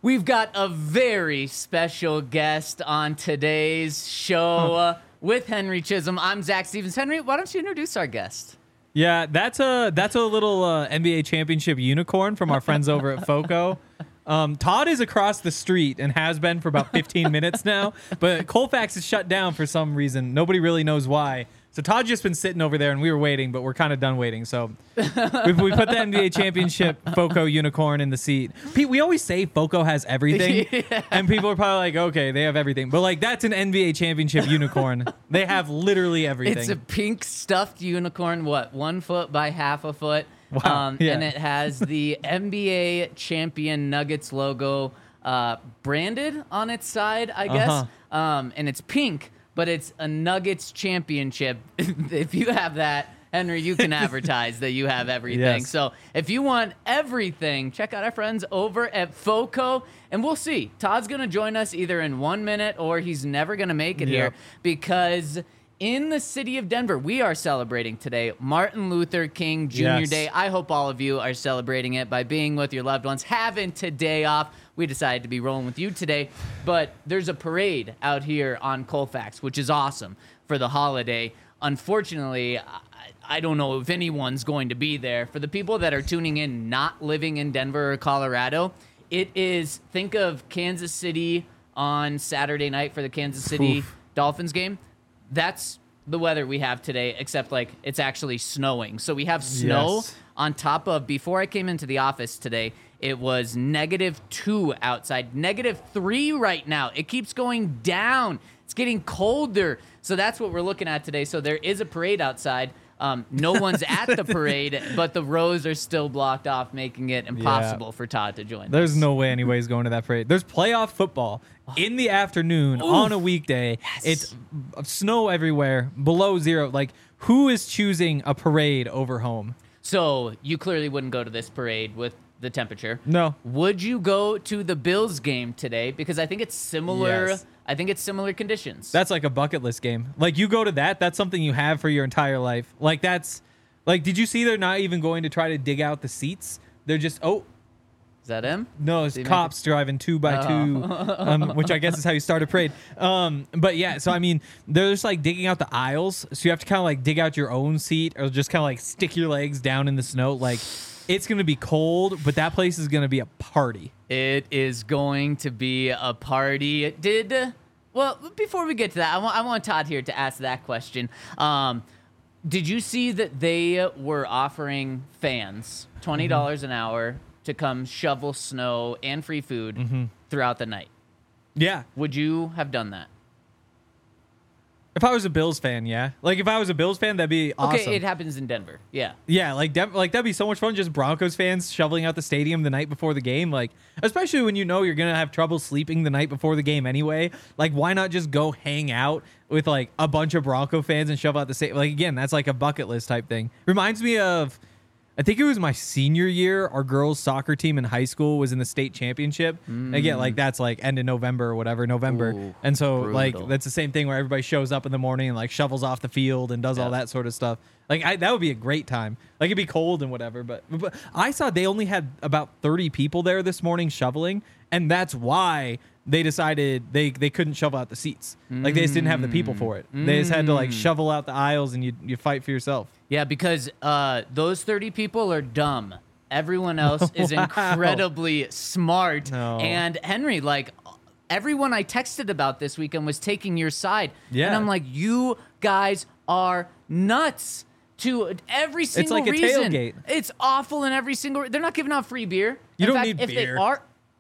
We've got a very special guest on today's show with Henry Chisholm. I'm Zach Stevens. Henry, why don't you introduce our guest? Yeah, that's a little NBA championship unicorn from our friends over at FOCO. Todd is across the street and has been for about 15 minutes now, but Colfax is shut down for some reason. Nobody really knows why. So Todd's just been sitting over there, and we were waiting, but we're kind of done waiting. So we put the NBA championship FOCO unicorn in the seat. Pete, we always say FOCO has everything, and people are probably like, okay, they have everything. But, like, that's an NBA championship unicorn. They have literally everything. It's a pink stuffed unicorn, 1 foot by half a foot? Wow. Yeah. And it has the NBA champion Nuggets logo branded on its side, I guess. And it's pink, but it's a Nuggets championship. If you have that, Henry, you can advertise that you have everything. Yes. So if you want everything, check out our friends over at FOCO, and we'll see. Todd's going to join us either in 1 minute or he's never going to make it here because in the city of Denver, we are celebrating today Martin Luther King Jr. Day. I hope all of you are celebrating it by being with your loved ones, having today off. We decided to be rolling with you today, but there's a parade out here on Colfax, which is awesome for the holiday. Unfortunately, I don't know if anyone's going to be there. For the people that are tuning in, not living in Denver or Colorado, it is, think of Kansas City on Saturday night for the Kansas City Dolphins game. That's the weather we have today, except like it's actually snowing. So we have snow on top of, before I came into the office today, it was -2 outside, -3 right now. It keeps going down. It's getting colder. So that's what we're looking at today. So there is a parade outside. No one's at the parade, but the rows are still blocked off, making it impossible for Todd to join. There's no way anybody's going to that parade. There's playoff football in the afternoon on a weekday. It's snow everywhere, below zero. Like, who is choosing a parade over home? So you clearly wouldn't go to this parade with the temperature. No. Would you go to the Bills game today? Because I think it's similar. Yes. I think it's similar conditions. That's like a bucket list game. Like, you go to that, that's something you have for your entire life. Like, that's like, did you see they're not even going to try to dig out the seats? They're just, is that him? no, it's cops driving 2 by 2, which I guess is how you start a parade. But yeah, so I mean, they're just like digging out the aisles. So you have to kind of like dig out your own seat or just kind of like stick your legs down in the snow. Like, it's going to be cold, but that place is going to be a party. It is going to be a party. Well, before we get to that, I want Todd here to ask that question. Did you see that they were offering fans $20 an hour to come shovel snow and free food throughout the night? Yeah. Would you have done that? If I was a Bills fan, yeah. Like, if I was a Bills fan, that'd be awesome. Okay, it happens in Denver. Yeah. Yeah, like that'd be so much fun. Just Broncos fans shoveling out the stadium the night before the game, like, especially when you know you're gonna have trouble sleeping the night before the game anyway. Like, why not just go hang out with like a bunch of Bronco fans and shove out the stadium? Like, again, that's like a bucket list type thing. Reminds me of, I think it was my senior year. Our girls' soccer team in high school was in the state championship. Again, like, that's like end of November or whatever, November. Ooh, and so brutal. like that's the same thing where everybody shows up in the morning and like shovels off the field and does all that sort of stuff. Like, that would be a great time. Like, it'd be cold and whatever, but I saw they only had about 30 people there this morning shoveling, and that's why they decided they couldn't shovel out the seats. Like, they just didn't have the people for it. They just had to like shovel out the aisles, and you fight for yourself. Yeah, because those 30 people are dumb. Everyone else is incredibly smart. No. And Henry, like, everyone I texted about this weekend was taking your side. Yeah. And I'm like, you guys are nuts. To every single like a reason. tailgate. It's awful in every single. They're not giving out free beer. You In don't fact, need if beer. they are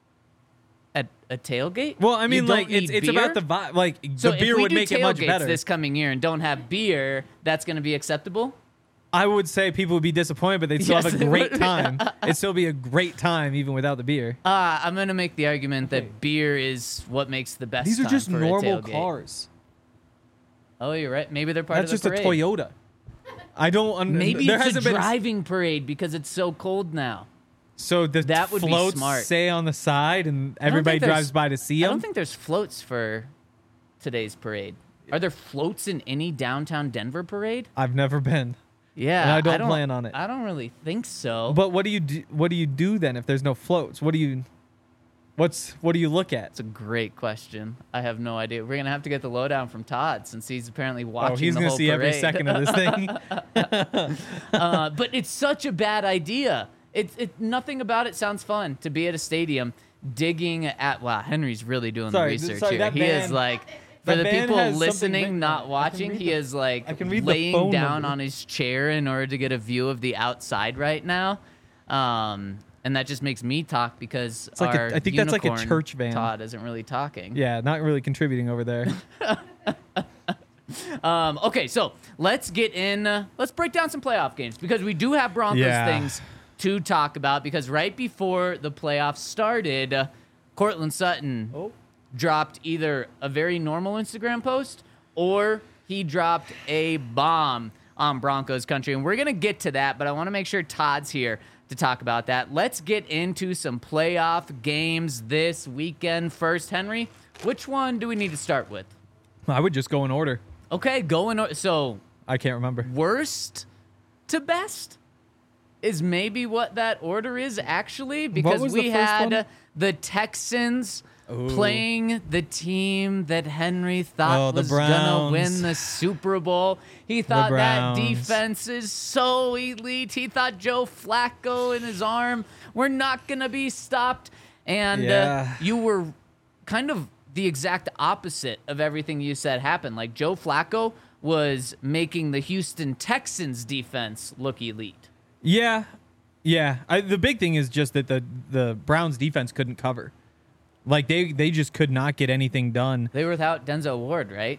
at a tailgate. Well, I you mean, don't like, need it's beer? about the vibe. Like, So the beer if we would do make it much tailgates better. this coming year and don't have beer, that's going to be acceptable. I would say people would be disappointed, but they'd still Yes, have a they great would. time. It'd still be a great time even without the beer. I'm going to make the argument that beer is what makes the best These are time just for a normal tailgate. cars. Oh, you're right. Maybe they're part That's of just the a parade. Toyota. I don't. Maybe there it's a hasn't been driving parade because it's so cold now. So the That would be floats smart. say on the side, and I don't everybody think there's- drives by to see I them. don't think there's floats for today's parade. Are there floats in any downtown Denver parade? I've never been. Yeah, And I don't plan on it. I don't really think so. But what do you do? What do you do then if there's no floats? What do you? What do you look at? It's a great question. I have no idea. We're gonna have to get the lowdown from Todd since he's apparently watching. He's going to see every second of this thing. But it's such a bad idea. Nothing about it sounds fun to be at a stadium digging at. Wow, Henry's really doing the research here. He is like. For the people listening, not watching, he is like laying down on his chair in order to get a view of the outside right now. And that just makes me talk because I think that's like a church van. Todd isn't really talking. Yeah, not really contributing over there. Okay, so let's get in. Let's break down some playoff games because we do have Broncos things to talk about because right before the playoffs started, Courtland Sutton dropped either a very normal Instagram post or he dropped a bomb on Broncos country. And we're going to get to that, but I want to make sure Todd's here to talk about that. Let's get into some playoff games this weekend. First, Henry, which one do we need to start with? I would just go in order. Okay, go in order. So I can't remember. Worst to best is maybe what that order is actually because we had the Texans playing the team that Henry thought was going to win the Super Bowl. He thought that defense is so elite. He thought Joe Flacco and his arm were not going to be stopped. And you were kind of the exact opposite of everything you said happened. Like Joe Flacco was making the Houston Texans defense look elite. Yeah. The big thing is just that the Browns defense couldn't cover. Like, they just could not get anything done. They were without Denzel Ward, right?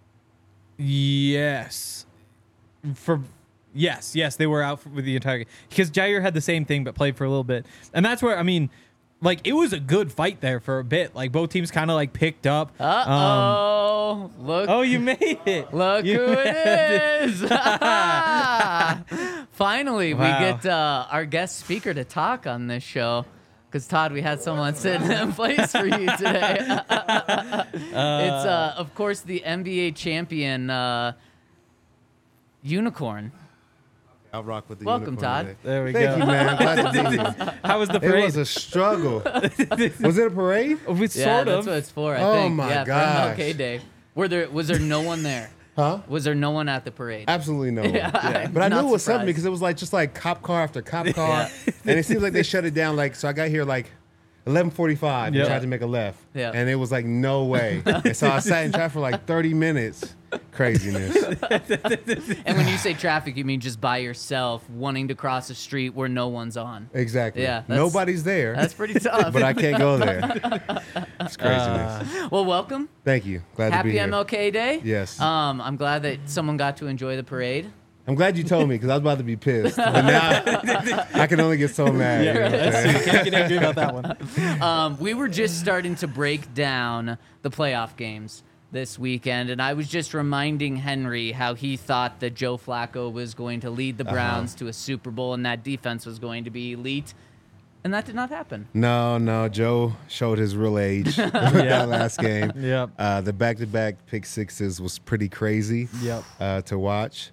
Yes. Yes, they were out with the entire game. Because Jair had the same thing, but played for a little bit. And that's where, I mean, like, it was a good fight there for a bit. Like, both teams kind of, like, picked up. Uh-oh. Look. Oh, you made it. Look who it is. Finally, we get our guest speaker to talk on this show. Because, Todd, we had someone sitting in place for you today. It's, of course, the NBA champion, Unicorn. I'll rock with the Welcome, Unicorn Todd. today. There we go. Thank you, man. Glad to be here. How was the parade? It was a struggle. Was it a parade? Sort that's of. what it's for, I Oh, think. my For gosh. MLK Day. Was there no one there? Huh? Was there no one at the parade? Absolutely no one. Yeah. But I knew Not it was something surprised. because it was like just like cop car after cop car. And it seems like they shut it down. Like, so I got here like 11:45 and tried to make a left. Yeah. And it was like, no way. And so I sat in traffic for like 30 minutes. Craziness. And when you say traffic, you mean just by yourself, wanting to cross a street where no one's on. Exactly. Yeah, Nobody's there. That's pretty tough. But I can't go there. It's craziness. Well, welcome. Thank you. Glad to Happy be here. MLK Day. Yes. I'm glad that someone got to enjoy the parade. I'm glad you told me because I was about to be pissed. But now I can only get so mad. You know what I'm saying? Can't get angry about that one. We were just starting to break down the playoff games this weekend, and I was just reminding Henry how he thought that Joe Flacco was going to lead the Browns to a Super Bowl and that defense was going to be elite, and that did not happen. No. Joe showed his real age with that last game. Yep. The back-to-back pick sixes was pretty crazy to watch.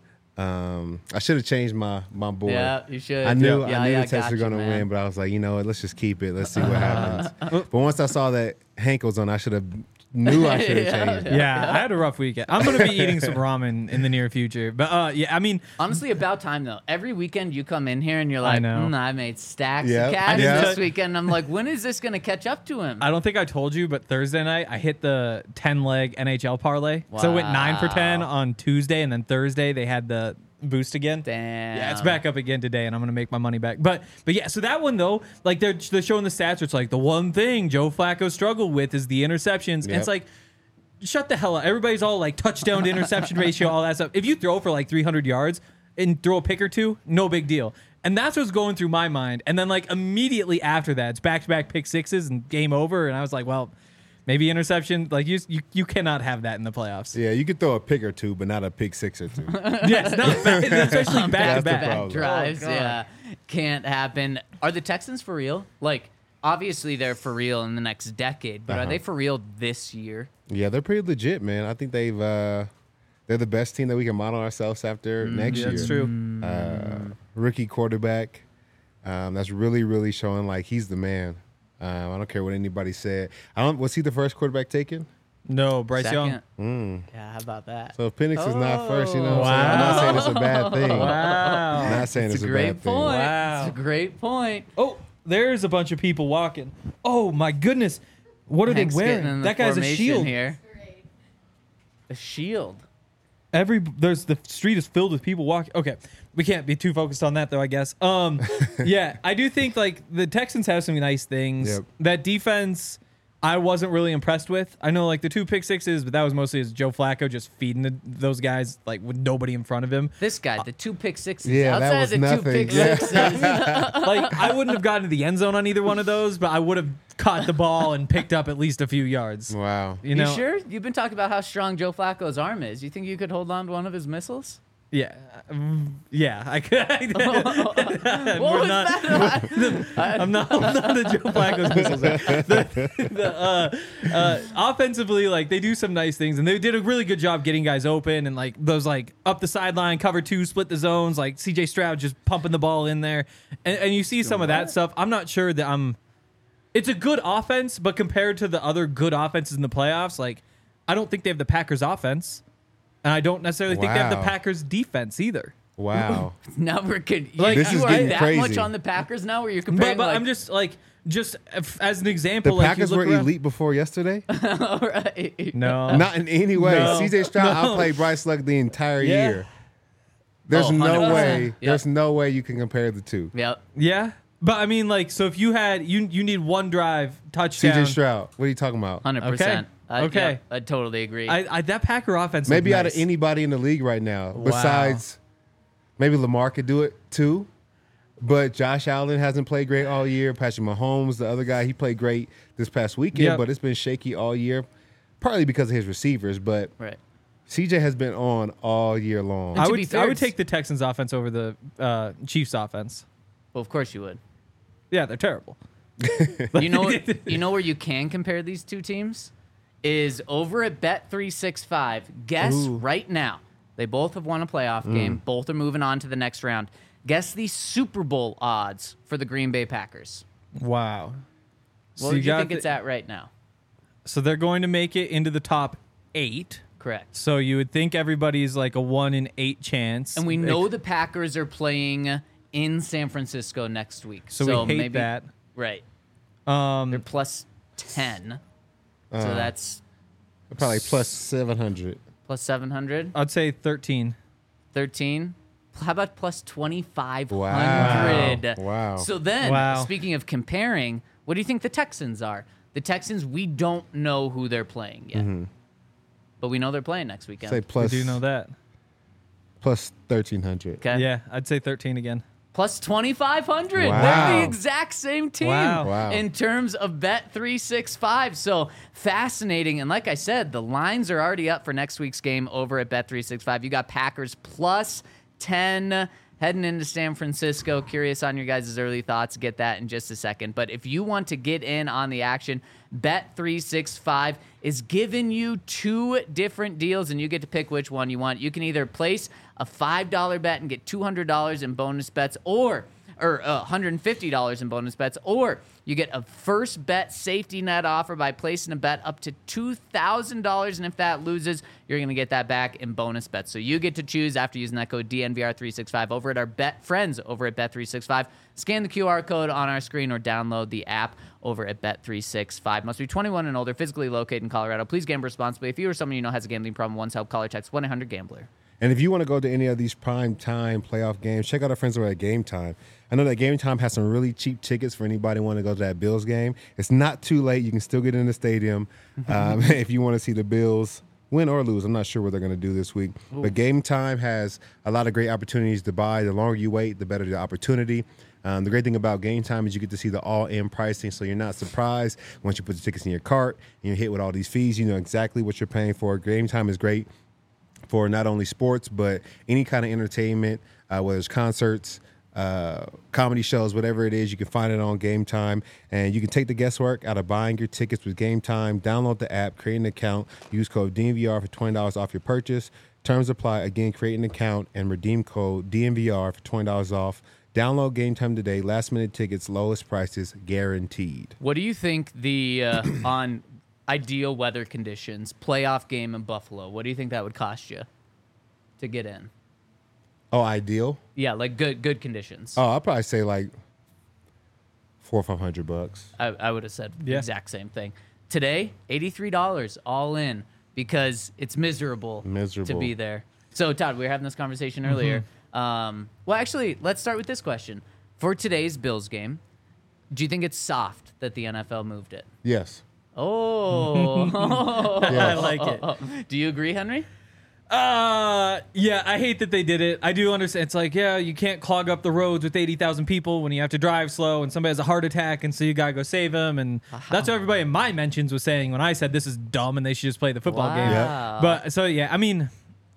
I should have changed my board. Yeah, you should. I knew Yeah, the I Texans got were you, going to man. win, but I was like, you know what? Let's just keep it. Let's see what happens. But once I saw that Hank was on, I should have changed it. Yeah, I had a rough weekend. I'm going to be eating some ramen in the near future. But, I mean. Honestly, about time, though. Every weekend you come in here and you're like, I made stacks Yep. of cash Yeah. this weekend. I'm like, when is this going to catch up to him? I don't think I told you, but Thursday night I hit the 10-leg NHL parlay. So it went 9 for 10 on Tuesday, and then Thursday they had the boost again. Damn. Yeah, it's back up again today, and I'm gonna make my money back. But yeah, so that one though, like they're showing the stats. Where it's like the one thing Joe Flacco struggled with is the interceptions. And it's like, shut the hell up. Everybody's all like touchdown to interception ratio, all that stuff. If you throw for like 300 yards and throw a pick or two, no big deal. And that's what's going through my mind. And then like immediately after that, it's back-to-back pick sixes and game over. And I was like, well, maybe interception. Like you cannot have that in the playoffs. Yeah, you could throw a pick or two, but not a pick six or two. Yes, no, especially back-to-back. Back drives, can't happen. Are the Texans for real? Like, obviously they're for real in the next decade, but are they for real this year? Yeah, they're pretty legit, man. I think they're the best team that we can model ourselves after next year. That's true. Rookie quarterback. That's really, really showing like he's the man. I don't care what anybody said. Was he the first quarterback taken? No, Bryce Young. Second. Yeah, how about that? So if Penix is not first, you know what Wow. I'm saying? I'm not saying it's a bad thing. Wow. I'm not saying it's a great bad thing. point. Wow. It's a great point. Oh, there's a bunch of people walking. Oh my goodness. What are Hank's they getting wearing? in the That guy's a formation shield. here. A shield. The street is filled with people walking. Okay, we can't be too focused on that though, I guess. Yeah, I do think like the Texans have some nice things. Yep. That defense, I wasn't really impressed with. I know like the 2 pick sixes, but that was mostly as Joe Flacco just feeding those guys like with nobody in front of him. This guy, the 2 pick sixes. Yeah, that Outside was of the 2 nothing. pick Yeah. sixes. Like I wouldn't have gotten to the end zone on either one of those, but I would have caught the ball and picked up at least a few yards. Wow. You know? You sure? You've been talking about how strong Joe Flacco's arm is. You think you could hold on to one of his missiles? Yeah, yeah, I could. What We're was not- that? I'm not the Joe Flacco's missiles. Offensively, like they do some nice things, and they did a really good job getting guys open and like those like up the sideline, cover 2, split the zones, like CJ Stroud just pumping the ball in there, and you see some of that stuff. I'm not sure that It's a good offense, but compared to the other good offenses in the playoffs, like I don't think they have the Packers offense, and I don't necessarily think they have the Wow. Packers defense either. Wow. Now we're good. Like, This you is are getting that crazy. much on the Packers now where you're comparing But like, I'm just as an The example, like Packers you were look around, elite before yesterday? all right. No, Not in any way. No. CJ Stroud No. outplayed Bryce Love the entire Yeah. year. There's Oh, no 100%. way. Yep. There's no way you can compare the two. Yep. yeah, but I mean, like, so if you had you need one drive touchdown, CJ Stroud. What are you talking about? 100%. Okay. Yep, I totally agree. I that Packer offense Maybe looked out nice. of anybody in the league right now, Wow. besides maybe Lamar could do it too. But Josh Allen hasn't played great all year. Patrick Mahomes, the other guy, he played great this past weekend, Yep. but it's been shaky all year, partly because of his receivers. But right. CJ has been on all year long. And I to would be fair, I would take the Texans offense over the Chiefs offense. Well, of course you would. Yeah, they're terrible. You know where you can compare these two teams is over at Bet365. Guess Ooh. right now. They both have won a playoff game. Both are moving on to the next round. Guess the Super Bowl odds for the Green Bay Packers. Wow. What would you got think it's at right now? So they're going to make it into the top 8. Correct. So you would think everybody's like a 1 in 8 chance. And we know the Packers are playing in San Francisco next week. So we hate maybe, that. Right. Um, They're plus 10. So that's Probably plus 700. plus 700. I'd say 13. 13. How about plus 2,500? Wow. So then, Wow. speaking of comparing, what do you think the Texans are? The Texans, we don't know who they're playing yet. But we know they're playing next weekend. Say We plus, do know that. plus 1,300. Okay. Yeah, I'd say 13 again. Plus 2,500. Wow. They're the exact same team Wow. in terms of Bet365. So fascinating. And like I said, the lines are already up for next week's game over at Bet365. You got Packers plus 10 heading into San Francisco. Curious on your guys' early thoughts. Get that in just a second. But if you want to get in on the action, Bet365 is giving you 2 different deals, and you get to pick which one you want. You can either place a $5 bet and get $200 in bonus bets, or $150 in bonus bets, or you get a first bet safety net offer by placing a bet up to $2,000, and if that loses, you're going to get that back in bonus bets. So you get to choose after using that code DNVR365 over at our Bet friends over at Bet365. Scan the QR code on our screen or download the app over at Bet365. Must be 21 and older, physically located in Colorado. Please gamble responsibly. If you or someone you know has a gambling problem, One's Help, call or text 1-800-GAMBLER. And if you want to go to any of these prime time playoff games, check out our friends over at Game Time. I know that Game Time has some really cheap tickets for anybody want to go to that Bills game. It's not too late. You can still get in the stadium if you want to see the Bills win or lose. I'm not sure what they're going to do this week. But Game Time has a lot of great opportunities to buy. The longer you wait, the better the opportunity. The great thing about Game Time is you get to see the all-in pricing, so you're not surprised once you put the tickets in your cart and you're hit with all these fees. You know exactly what you're paying for. Game Time is great for not only sports, but any kind of entertainment, whether it's concerts, comedy shows, whatever it is, you can find it on Game Time. And you can take the guesswork out of buying your tickets with Game Time. Download the app, create an account, use code DNVR for $20 off your purchase. Terms apply. Again, create an account and redeem code DNVR for $20 off Download Game Time today. Last minute tickets, lowest prices guaranteed. What do you think the on ideal weather conditions playoff game in Buffalo? What do you think that would cost you to get in? Oh, ideal? Yeah, like good conditions. Oh, I'd probably say like $400 or $500. I would have said the Yeah. exact same thing. Today, $83 all in because it's miserable to be there. So, Todd, we were having this conversation earlier. Well, actually, let's start with this question. For today's Bills game, do you think it's soft that the NFL moved it? Yes. Oh. I like it. Do you agree, Henry? Yeah, I hate that they did it. I do understand. It's like, yeah, you can't clog up the roads with 80,000 people when you have to drive slow and somebody has a heart attack and so you gotta go save them. And that's what everybody in my mentions was saying when I said this is dumb and they should just play the football game. Wow. But so, yeah, I mean,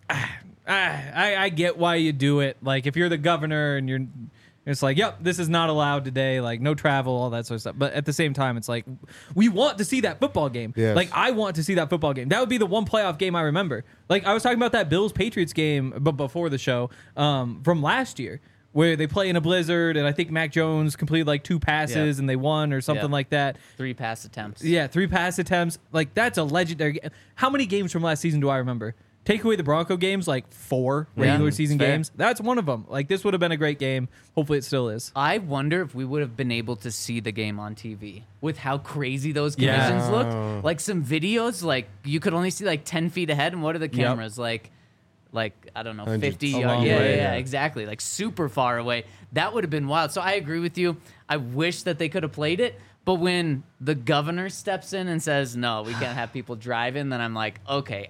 I get why you do it. Like, if you're the governor and it's like, yep, this is not allowed today, like no travel, all that sort of stuff. But at the same time, it's like, we want to see that football game. Yes. Like, I want to see that football game. That would be the one playoff game I remember. Like, I was talking about that Bills-Patriots game but before the show from last year, where they play in a blizzard, and I think Mac Jones completed like 2 passes and they won or something like that. 3 pass attempts. Yeah, 3 pass attempts. Like, that's a legendary. How many games from last season do I remember? Take away the Bronco games, like 4 regular season fair. games. That's one of them. Like, this would have been a great game. Hopefully it still is. I wonder if we would have been able to see the game on TV with how crazy those conditions looked. Like some videos, like you could only see like 10 feet ahead, and what are the cameras like I don't know, Hundreds. 50 A yards? long Yeah, way, yeah, yeah. exactly. Like super far away. That would have been wild. So I agree with you. I wish that they could have played it. But when the governor steps in and says, no, we can't have people driving, then I'm like, okay,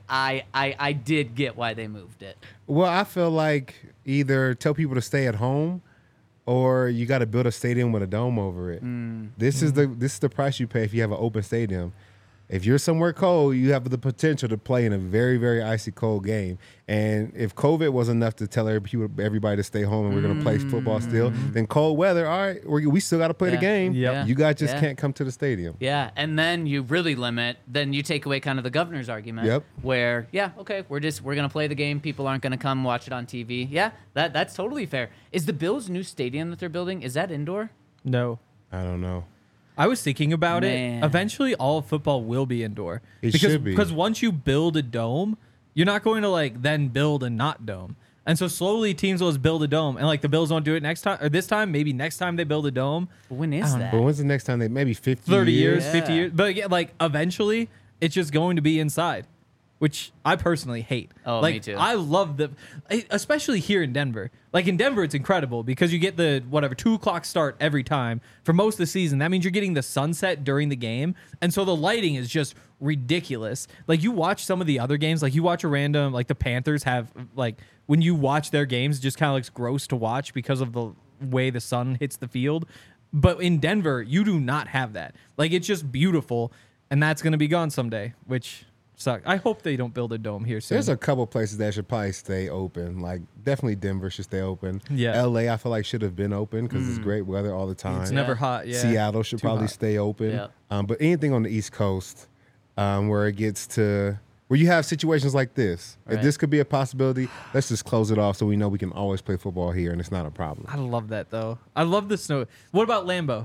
I did get why they moved it. Well, I feel like either tell people to stay at home or you got to build a stadium with a dome over it. This is the price you pay if you have an open stadium. If you're somewhere cold, you have the potential to play in a very, very icy cold game. And if COVID was enough to tell everybody to stay home and we're going to play football still, then cold weather, all right, we still got to play the game. Yep. You guys just can't come to the stadium. Yeah, and then you really limit. Then you take away kind of the governor's argument. Yep. Where okay, we're gonna play the game. People aren't gonna come watch it on TV. Yeah, that's totally fair. Is the Bills' new stadium that they're building, is that indoor? No. I don't know. I was thinking about Man. it. Eventually, all of football will be indoor. It should be. Because once you build a dome, you're not going to like then build a not dome. And so slowly teams will just build a dome. And like the Bills won't do it next time or this time. Maybe next time they build a dome. When is that? But when's the next time maybe 50 30 years, Yeah. 50 years. But again, like eventually it's just going to be inside, which I personally hate. Oh, like, me too. I love especially here in Denver. Like in Denver, it's incredible because you get the 2:00 start every time for most of the season. That means you're getting the sunset during the game. And so the lighting is just ridiculous. Like you watch some of the other games, like you watch a random, like the Panthers have like, when you watch their games, it just kind of looks gross to watch because of the way the sun hits the field. But in Denver, you do not have that. Like it's just beautiful. And that's going to be gone someday, which sucks. I hope they don't build a dome here soon. There's a couple places that should probably stay open. Like definitely Denver should stay open. Yeah. LA I feel like should have been open because it's great weather all the time. It's never hot. Yeah. Seattle should Too probably hot. stay open. Yeah. But anything on the East Coast where it gets to where you have situations like this, Right. if this could be a possibility, let's just close it off so we know we can always play football here and it's not a problem. I love that though. I love the snow. What about Lambeau?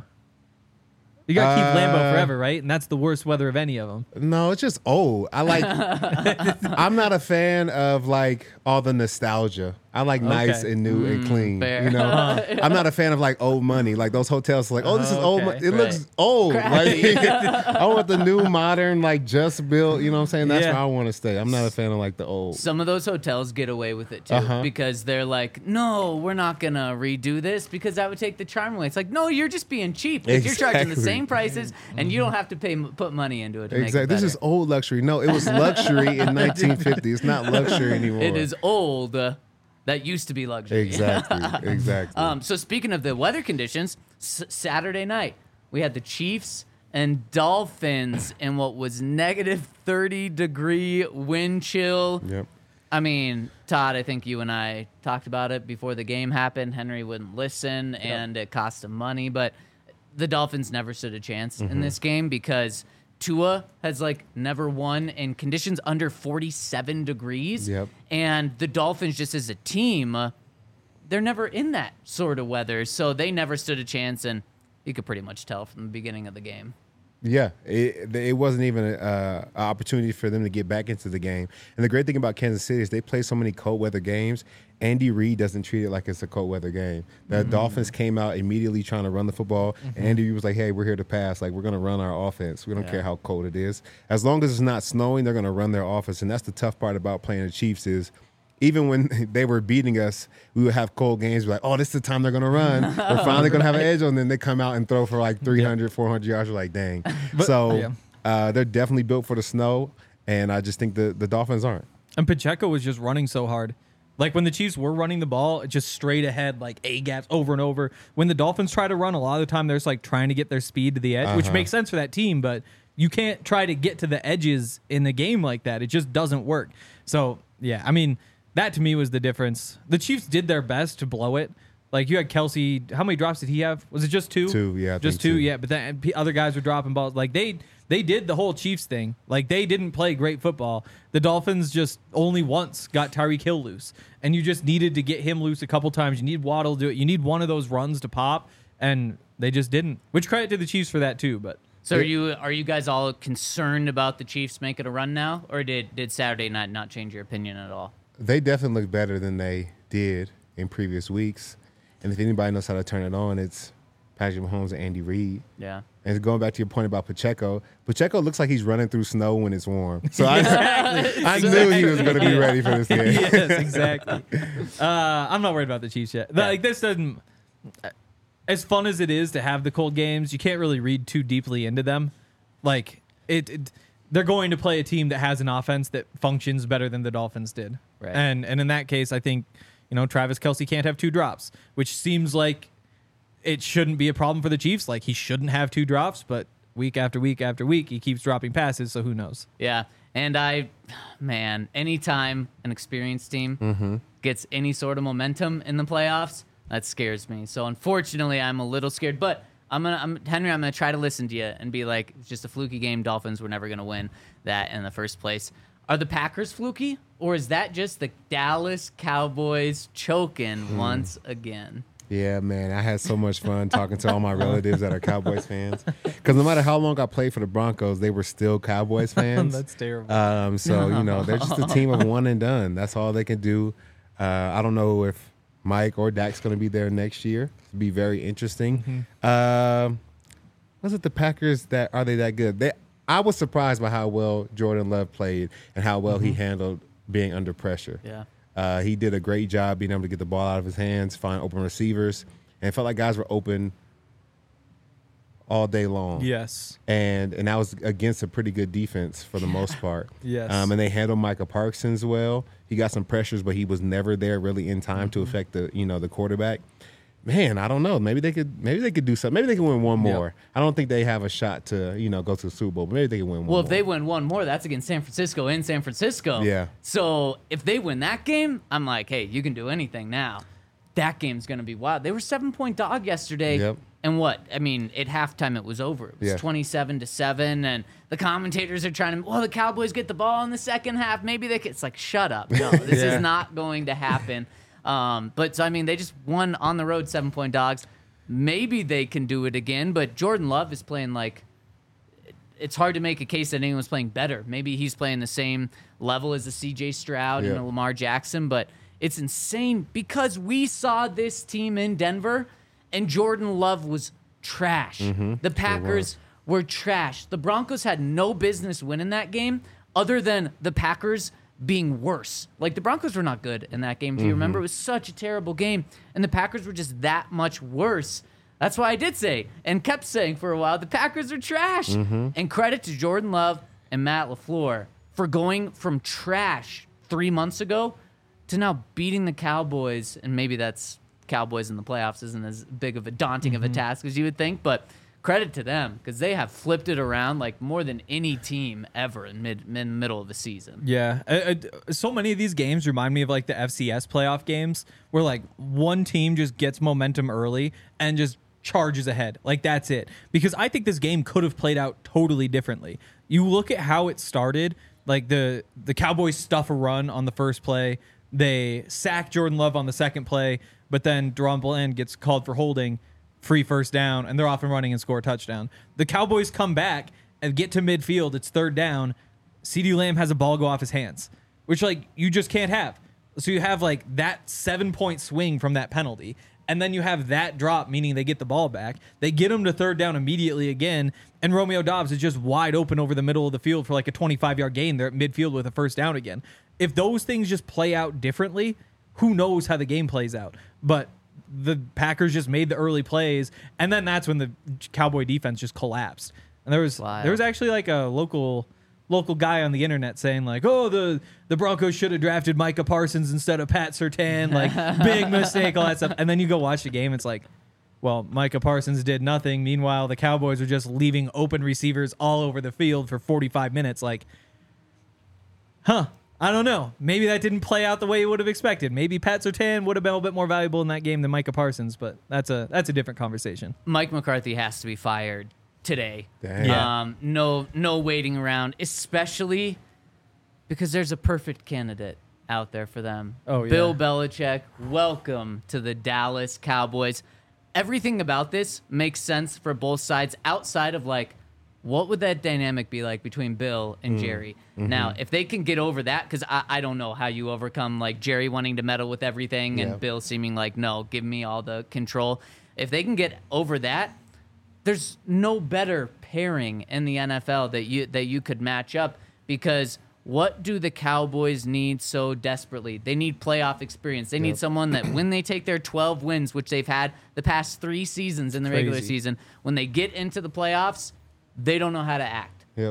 You got to keep Lambeau forever, right? And that's the worst weather of any of them. No, it's just old. I like. I'm not a fan of like all the nostalgia. I like nice and new and clean. fair. You know, I'm not a fan of like old money. Like those hotels, like this is old. Okay. It looks old. Like I want the new, modern, like just built. You know what I'm saying? That's Yeah. where I want to stay. I'm not a fan of like the old. Some of those hotels get away with it too because they're like, no, we're not gonna redo this because that would take the charm away. It's like, no, you're just being cheap. Like, you're charging the Exactly. same prices and you don't have to put money into it. To make it Exactly. This better. is old luxury. No, it was luxury in 1950. It's not luxury anymore. It is old. That used to be luxury. Exactly. Exactly. So speaking of the weather conditions, Saturday night we had the Chiefs and Dolphins in what was negative 30-degree wind chill. Yep. I mean, Todd, I think you and I talked about it before the game happened. Henry wouldn't listen, and it cost him money. But the Dolphins never stood a chance in this game because Tua has like never won in conditions under 47 degrees. Yep. And the Dolphins, just as a team, they're never in that sort of weather, so they never stood a chance, and you could pretty much tell from the beginning of the game. Yeah, it wasn't even an opportunity for them to get back into the game. And the great thing about Kansas City is they play so many cold weather games. Andy Reid doesn't treat it like it's a cold weather game. The Dolphins came out immediately trying to run the football, and Andy Reid was like, "Hey, we're here to pass. Like, we're going to run our offense. We don't care how cold it is. As long as it's not snowing, they're going to run their offense." And that's the tough part about playing the Chiefs is, even when they were beating us, we would have cold games. We're like, oh, this is the time they're going to run. We're finally going to have an edge on them. They come out and throw for like 300, 400 yards. We're like, dang. They're definitely built for the snow, and I just think the Dolphins aren't. And Pacheco was just running so hard. Like when the Chiefs were running the ball, just straight ahead, like A-gaps over and over. When the Dolphins try to run, a lot of the time they're just like trying to get their speed to the edge, which makes sense for that team, but you can't try to get to the edges in the game like that. It just doesn't work. So, yeah, I mean, that to me was the difference. The Chiefs did their best to blow it. Like you had Kelsey. How many drops did he have? Was it just 2? 2, yeah. Just 2, yeah. But then other guys were dropping balls. Like they did the whole Chiefs thing. Like they didn't play great football. The Dolphins just only once got Tyreek Hill loose. And you just needed to get him loose a couple times. You need Waddle to do it. You need one of those runs to pop. And they just didn't. Which credit to the Chiefs for that too. But so are you guys all concerned about the Chiefs making a run now? Or did Saturday night not change your opinion at all? They definitely look better than they did in previous weeks. And if anybody knows how to turn it on, it's Patrick Mahomes and Andy Reid. Yeah. And going back to your point about Pacheco looks like he's running through snow when it's warm. So I knew he was going to be ready for this game. Yes, exactly. I'm not worried about the Chiefs yet. Like this doesn't. As fun as it is to have the cold games, you can't really read too deeply into them. Like they're going to play a team that has an offense that functions better than the Dolphins did. Right. And in that case, I think, Travis Kelce can't have 2 drops, which seems like it shouldn't be a problem for the Chiefs. Like he shouldn't have 2 drops, but week after week after week, he keeps dropping passes. So who knows? Yeah. And anytime an experienced team gets any sort of momentum in the playoffs, that scares me. So unfortunately, I'm a little scared, but Henry, I'm gonna try to listen to you and be like, it's just a fluky game. Dolphins were never gonna win that in the first place. Are the Packers fluky, or is that just the Dallas Cowboys choking once again? Yeah, man, I had so much fun talking to all my relatives that are Cowboys fans. Because no matter how long I played for the Broncos, they were still Cowboys fans. That's terrible. So they're just a team of one and done. That's all they can do. I don't know if Mike or Dak's going to be there next year. It'll be very interesting. Was it the Packers are they that good? I was surprised by how well Jordan Love played and how well he handled being under pressure. Yeah. He did a great job being able to get the ball out of his hands, find open receivers, and it felt like guys were open all day long. Yes. And that was against a pretty good defense for the most part. Yes. And they handled Micah Parsons well. He got some pressures, but he was never there really in time to affect the quarterback. Man, I don't know. Maybe they could do something. Maybe they can win one more. I don't think they have a shot to, go to the Super Bowl, but maybe they can win one more. Well, if they win one more, that's against San Francisco in San Francisco. Yeah. So if they win that game, I'm like, hey, you can do anything now. That game's going to be wild. They were 7-point dog yesterday. Yep. And what? I mean, at halftime, it was over. It was 27-7, and the commentators are trying to, the Cowboys get the ball in the second half. Maybe they could. It's like, shut up. No, this is not going to happen. They just won on the road 7-point dogs. Maybe they can do it again, but Jordan Love is playing like, it's hard to make a case that anyone's playing better. Maybe he's playing the same level as a C.J. Stroud and a Lamar Jackson, but it's insane because we saw this team in Denver and Jordan Love was trash. The Packers were trash. The Broncos had no business winning that game other than the Packers being worse. Like, the Broncos were not good in that game. If you remember, it was such a terrible game, and the Packers were just that much worse. That's why I did say, and kept saying for a while, the Packers are trash. And credit to Jordan Love and Matt LaFleur for going from trash 3 months ago to now beating the Cowboys, and maybe that's Cowboys in the playoffs isn't as big of a daunting of a task as you would think, but credit to them because they have flipped it around like more than any team ever in middle of the season. Yeah. So many of these games remind me of like the FCS playoff games where like one team just gets momentum early and just charges ahead. Like that's it. Because I think this game could have played out totally differently. You look at how it started, like the Cowboys stuff a run on the first play. They sack Jordan Love on the second play. but then Deron Bland gets called for holding, free first down, and they're off and running and score a touchdown. The Cowboys come back and get to midfield. It's third down. CeeDee Lamb has a ball go off his hands, which like you just can't have. So you have like that 7-point swing from that penalty. And then you have that drop, meaning they get the ball back. They get him to third down immediately again. And Romeo Doubs is just wide open over the middle of the field for like a 25-yard gain. They're at midfield with a first down again. If those things just play out differently, who knows how the game plays out. But the Packers just made the early plays. And then that's when the Cowboy defense just collapsed. And there was actually like a local guy on the internet saying like, oh, the Broncos should have drafted Micah Parsons instead of Pat Surtain, like big mistake, all that stuff. And then you go watch the game, it's like, well, Micah Parsons did nothing. Meanwhile, the Cowboys were just leaving open receivers all over the field for 45 minutes. Like, I don't know. Maybe that didn't play out the way you would have expected. Maybe Pat Surtain would have been a bit more valuable in that game than Micah Parsons, but that's a different conversation. Mike McCarthy has to be fired today. Dang. No waiting around, especially because there's a perfect candidate out there for them. Oh, yeah. Bill Belichick, welcome to the Dallas Cowboys. Everything about this makes sense for both sides outside of like, what would that dynamic be like between Bill and Jerry? Now, if they can get over that, because I don't know how you overcome like Jerry wanting to meddle with everything and Bill seeming like, no, give me all the control. If they can get over that, there's no better pairing in the NFL that you could match up, because what do the Cowboys need so desperately? They need playoff experience. They need someone that when they take their 12 wins, which they've had the past 3 seasons in the regular season, when they get into the playoffs, they don't know how to act. Yep.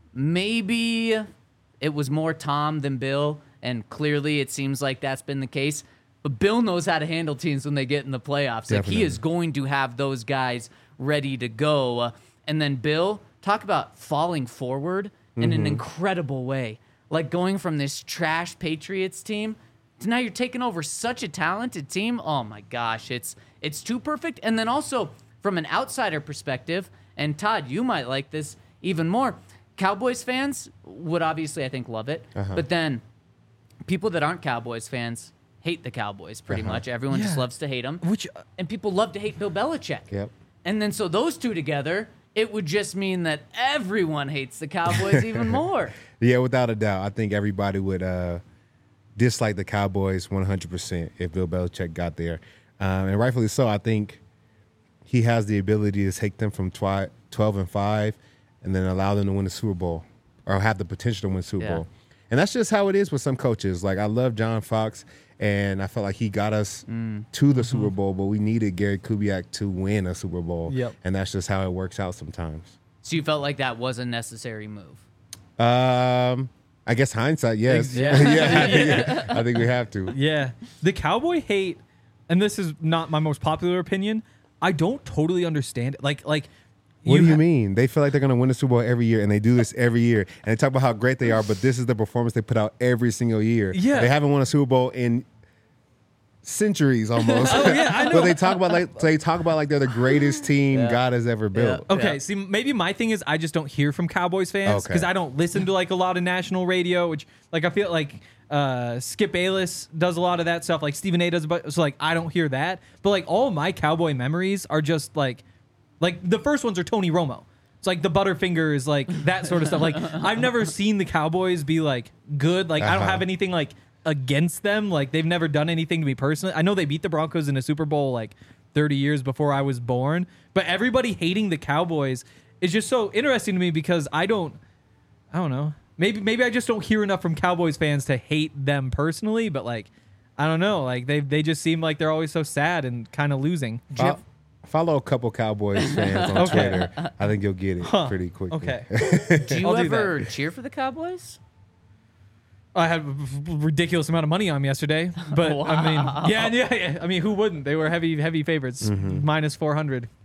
Maybe it was more Tom than Bill, and clearly it seems like that's been the case. But Bill knows how to handle teams when they get in the playoffs. Like, he is going to have those guys ready to go. And then Bill, talk about falling forward in an incredible way. Like going from this trash Patriots team to now you're taking over such a talented team. Oh my gosh, it's too perfect. And then also from an outsider perspective, and Todd, you might like this even more. Cowboys fans would obviously, I think, love it. But then people that aren't Cowboys fans hate the Cowboys pretty much. Everyone just loves to hate them. And people love to hate Bill Belichick. Yep. And then so those two together, it would just mean that everyone hates the Cowboys even more. Yeah, without a doubt. I think everybody would dislike the Cowboys 100% if Bill Belichick got there. And rightfully so. I think he has the ability to take them from 12-5 and then allow them to win the Super Bowl, or have the potential to win the Super Bowl. And that's just how it is with some coaches. Like, I love John Fox, and I felt like he got us to the Super Bowl, but we needed Gary Kubiak to win a Super Bowl. Yep. And that's just how it works out sometimes. So you felt like that was a necessary move? I guess hindsight, yes. Yeah. I think we have to. Yeah. The Cowboy hate, and this is not my most popular opinion, I don't totally understand it. Like what do you mean? They feel like they're going to win the Super Bowl every year, and they do this every year. And they talk about how great they are, but this is the performance they put out every single year. Yeah. They haven't won a Super Bowl in centuries almost. Oh, yeah, I know. But they talk about like they're the greatest team God has ever built. Okay, see, maybe my thing is I just don't hear from Cowboys fans because I don't listen to like a lot of national radio, which like I feel like Skip Bayless does a lot of that stuff, like Stephen A does, so like I don't hear that. But like all my Cowboy memories are just like the first ones are Tony Romo. It's like the Butterfingers, like that sort of stuff. Like I've never seen the Cowboys be like good. Like I don't have anything like against them. Like they've never done anything to me personally. I know they beat the Broncos in a Super Bowl like 30 years before I was born, but everybody hating the Cowboys is just so interesting to me because I don't know. Maybe I just don't hear enough from Cowboys fans to hate them personally, but like I don't know. Like they just seem like they're always so sad and kind of losing. Follow a couple Cowboys fans on Twitter. I think you'll get it pretty quickly. Okay. Do you ever cheer for the Cowboys? I had a ridiculous amount of money on them yesterday, but I mean, yeah. I mean, who wouldn't? They were heavy favorites, minus 400.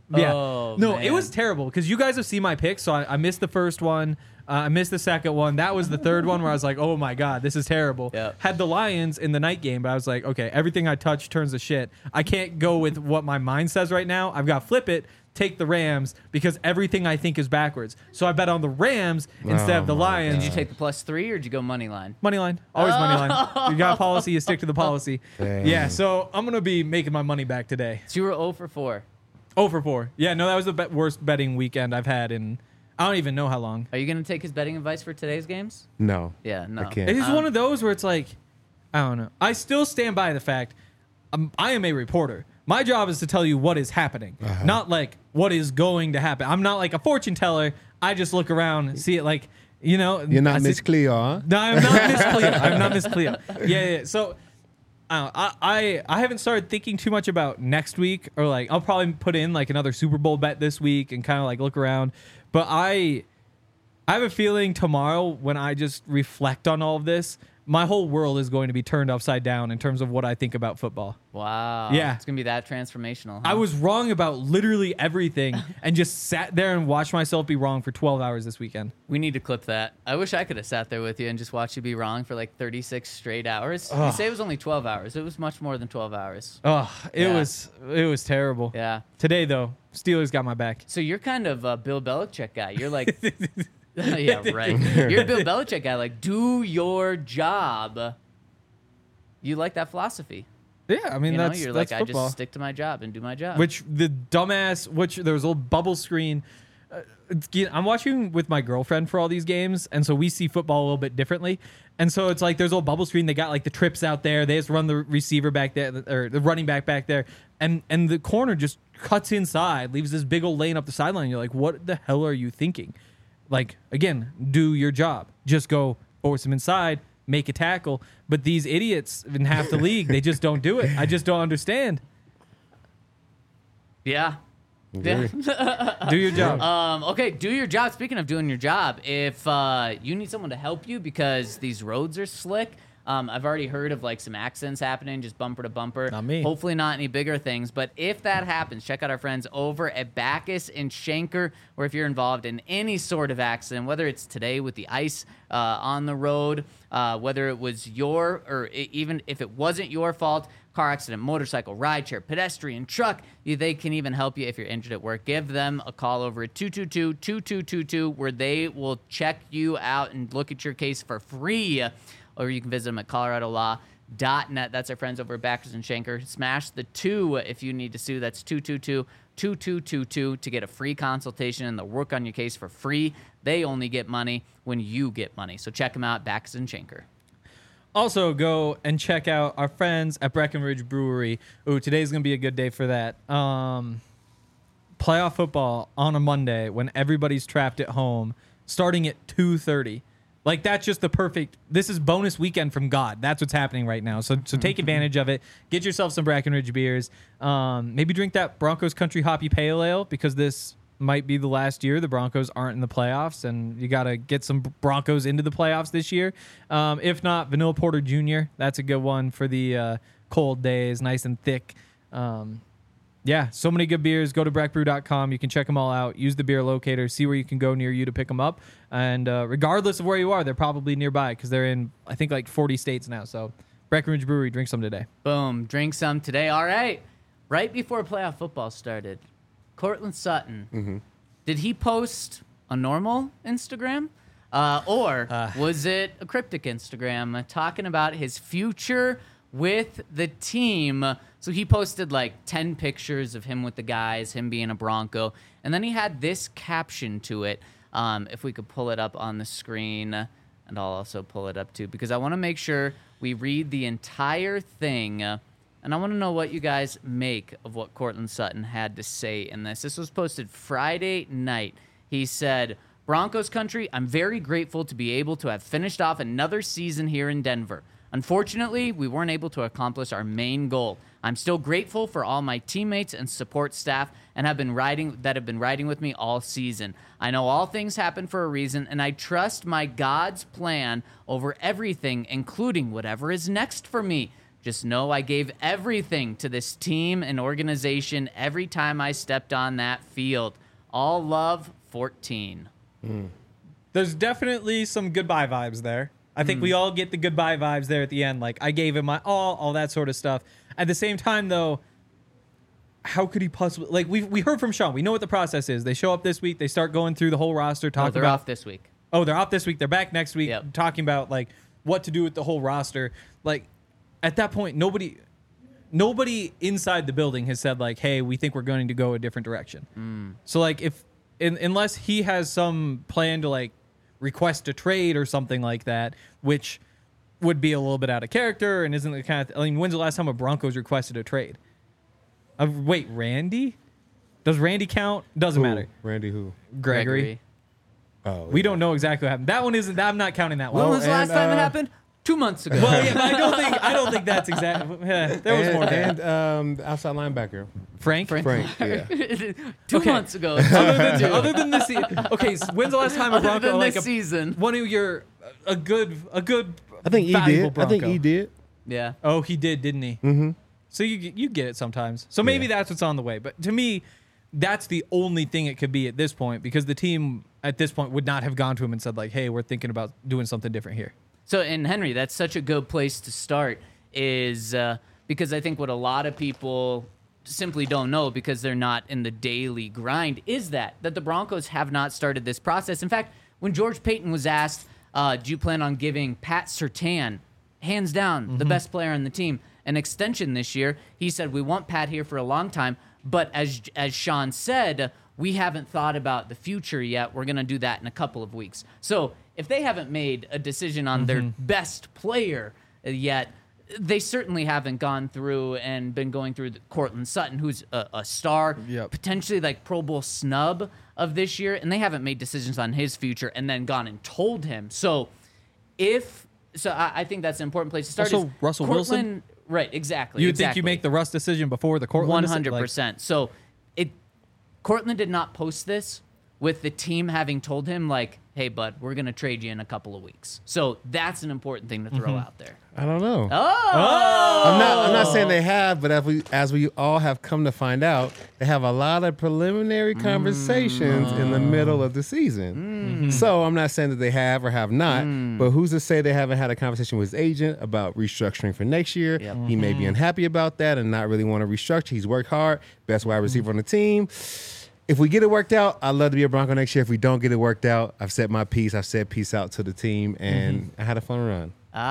Yeah. Oh, No, man. it was terrible because you guys have seen my picks. So I missed the first one. I missed the second one. That was the third one where I was like, oh my God, this is terrible. Yep. Had the Lions in the night game, but I was like, okay, everything I touch turns to shit. I can't go with what my mind says right now. I've got to flip it, take the Rams because everything I think is backwards. So I bet on the Rams instead of the my Lions. Did you take the +3 or did you go money line? Money line. Always money line. You got a policy, you stick to the policy. Dang. Yeah, so I'm going to be making my money back today. So you were 0 for 4. 0 for 4. Yeah, no, that was the worst betting weekend I've had in I don't even know how long. Are you going to take his betting advice for today's games? No. Yeah, no. I can't. It's just one of those where it's like, I don't know. I still stand by the fact I am a reporter. My job is to tell you what is happening, not like what is going to happen. I'm not like a fortune teller. I just look around and see it like, you know. You're not I Miss see- Cleo, huh? No, I'm not Miss Cleo. I'm not Miss Cleo. Yeah. So I haven't started thinking too much about next week or like I'll probably put in like another Super Bowl bet this week and kind of like look around. But I have a feeling tomorrow when I just reflect on all of this, my whole world is going to be turned upside down in terms of what I think about football. Wow. Yeah. It's going to be that transformational. Huh? I was wrong about literally everything and just sat there and watched myself be wrong for 12 hours this weekend. We need to clip that. I wish I could have sat there with you and just watched you be wrong for like 36 straight hours. You say it was only 12 hours. It was much more than 12 hours. Oh, it Yeah. was terrible. Yeah. Today though, Steelers got my back. So you're kind of a Bill Belichick guy. You're like, yeah, right. You're a Bill Belichick guy. Like, do your job. You like that philosophy. Yeah, I mean You know, that's you're that's like, football. I just stick to my job and do my job. Which the dumbass, there was a little bubble screen. I'm watching with my girlfriend for all these games, and so we see football a little bit differently. And so it's like there's a little bubble screen. They got like the trips out there. They just run the receiver back there, or the running back there, and the corner just cuts inside, leaves this big old lane up the sideline. You're like, what the hell are you thinking? Like, again, do your job. Just go force him inside, make a tackle. But these idiots in half the league, they just don't do it. I just don't understand. yeah. Agree. Do your job. Okay, do your job. Speaking of doing your job, if you need someone to help you because these roads are slick, I've already heard of like some accidents happening, just bumper to bumper. Not me. Hopefully not any bigger things. But if that happens, check out our friends over at Backus and Schenker, or if you're involved in any sort of accident, whether it's today with the ice on the road, whether it was even if it wasn't your fault, car accident, motorcycle, rideshare, pedestrian, truck, they can even help you if you're injured at work. Give them a call over at 222-2222 where they will check you out and look at your case for free. Or you can visit them at coloradolaw.net. That's our friends over at Backus and Schenker. Smash the 2 if you need to sue. That's 222-2222 to get a free consultation and they'll work on your case for free. They only get money when you get money. So check them out, Backus and Schenker. Also, go and check out our friends at Breckenridge Brewery. Ooh, today's going to be a good day for that. Playoff football on a Monday when everybody's trapped at home, starting at 2:30. Like, that's just the perfect... This is bonus weekend from God. That's what's happening right now. So take advantage of it. Get yourself some Breckenridge beers. Maybe drink that Broncos Country Hoppy Pale Ale because this might be the last year the Broncos aren't in the playoffs, and you got to get some Broncos into the playoffs this year. If not, Vanilla Porter Jr., that's a good one for the cold days, nice and thick. Yeah, so many good beers. Go to breckbrew.com. You can check them all out. Use the beer locator. See where you can go near you to pick them up. And regardless of where you are, they're probably nearby because they're in, I think, like 40 states now. So Breckenridge Brewery, drink some today. Boom. Drink some today. All right. Right before playoff football started, Courtland Sutton, did he post a normal Instagram? Or was it a cryptic Instagram talking about his future with the team? So he posted like 10 pictures of him with the guys, him being a Bronco. And then he had this caption to it. If we could pull it up on the screen, and I'll also pull it up too, because I want to make sure we read the entire thing. And I want to know what you guys make of what Courtland Sutton had to say in this. This was posted Friday night. He said, Broncos country, I'm very grateful to be able to have finished off another season here in Denver. Unfortunately, we weren't able to accomplish our main goal. I'm still grateful for all my teammates and support staff and have been riding with me all season. I know all things happen for a reason, and I trust my God's plan over everything, including whatever is next for me. Just know I gave everything to this team and organization every time I stepped on that field. All love, 14. There's definitely some goodbye vibes there. I think we all get the goodbye vibes there at the end. Like, I gave him my all that sort of stuff. At the same time, though, how could he possibly... Like, we heard from Sean. We know what the process is. They show up this week. They start going through the whole roster. They're off this week. Oh, they're off this week. They're back next week, Yep. talking about, like, what to do with the whole roster. Like, at that point, nobody inside the building has said, like, hey, we think we're going to go a different direction. So, like, unless he has some plan to, like, request a trade or something like that, which would be a little bit out of character and isn't the kind of... I mean, when's the last time a Broncos requested a trade? Wait, Randy? Does Randy count? Doesn't matter. Randy who? Gregory. Oh, We don't know exactly what happened. That one isn't... I'm not counting that When one. was the last time it happened? 2 months ago. Well, yeah, but I don't think that's exactly... there was more there. And outside linebacker. Frank? Frank, yeah. 2 Okay. months ago. Other than this season... Okay, so when's the last time a Other Bronco... than like this season. One of your... A good I think he valuable did. I think Bronco. he did. Yeah. Oh, he did, didn't he? Mm-hmm. So you get it sometimes. So maybe that's what's on the way. But to me, that's the only thing it could be at this point, because the team at this point would not have gone to him and said, like, hey, we're thinking about doing something different here. So, and Henry, that's such a good place to start, is because I think what a lot of people simply don't know, because they're not in the daily grind, is that the Broncos have not started this process. In fact, when George Paton was asked, do you plan on giving Pat Surtain, hands down, the best player on the team, an extension this year, he said, we want Pat here for a long time, but as Sean said, we haven't thought about the future yet. We're going to do that in a couple of weeks. So if they haven't made a decision on their best player yet, they certainly haven't gone through and been going through Courtland Sutton, who's a star, potentially like Pro Bowl snub of this year, and they haven't made decisions on his future and then gone and told him. So I think that's an important place to start. Also, is Russell Courtland, Wilson? Right, exactly. You would think you make the Russ decision before the Courtland 100%. So Courtland did not post this with the team having told him, like, hey, bud, we're going to trade you in a couple of weeks. So that's an important thing to throw out there. I don't know. Oh! I'm not saying they have, but as we all have come to find out, they have a lot of preliminary conversations in the middle of the season. So I'm not saying that they have or have not, but who's to say they haven't had a conversation with his agent about restructuring for next year? Yep. He may be unhappy about that and not really want to restructure. He's worked hard, best wide receiver on the team. If we get it worked out, I'd love to be a Bronco next year. If we don't get it worked out, I've said my piece. I've said peace out to the team, and I had a fun run.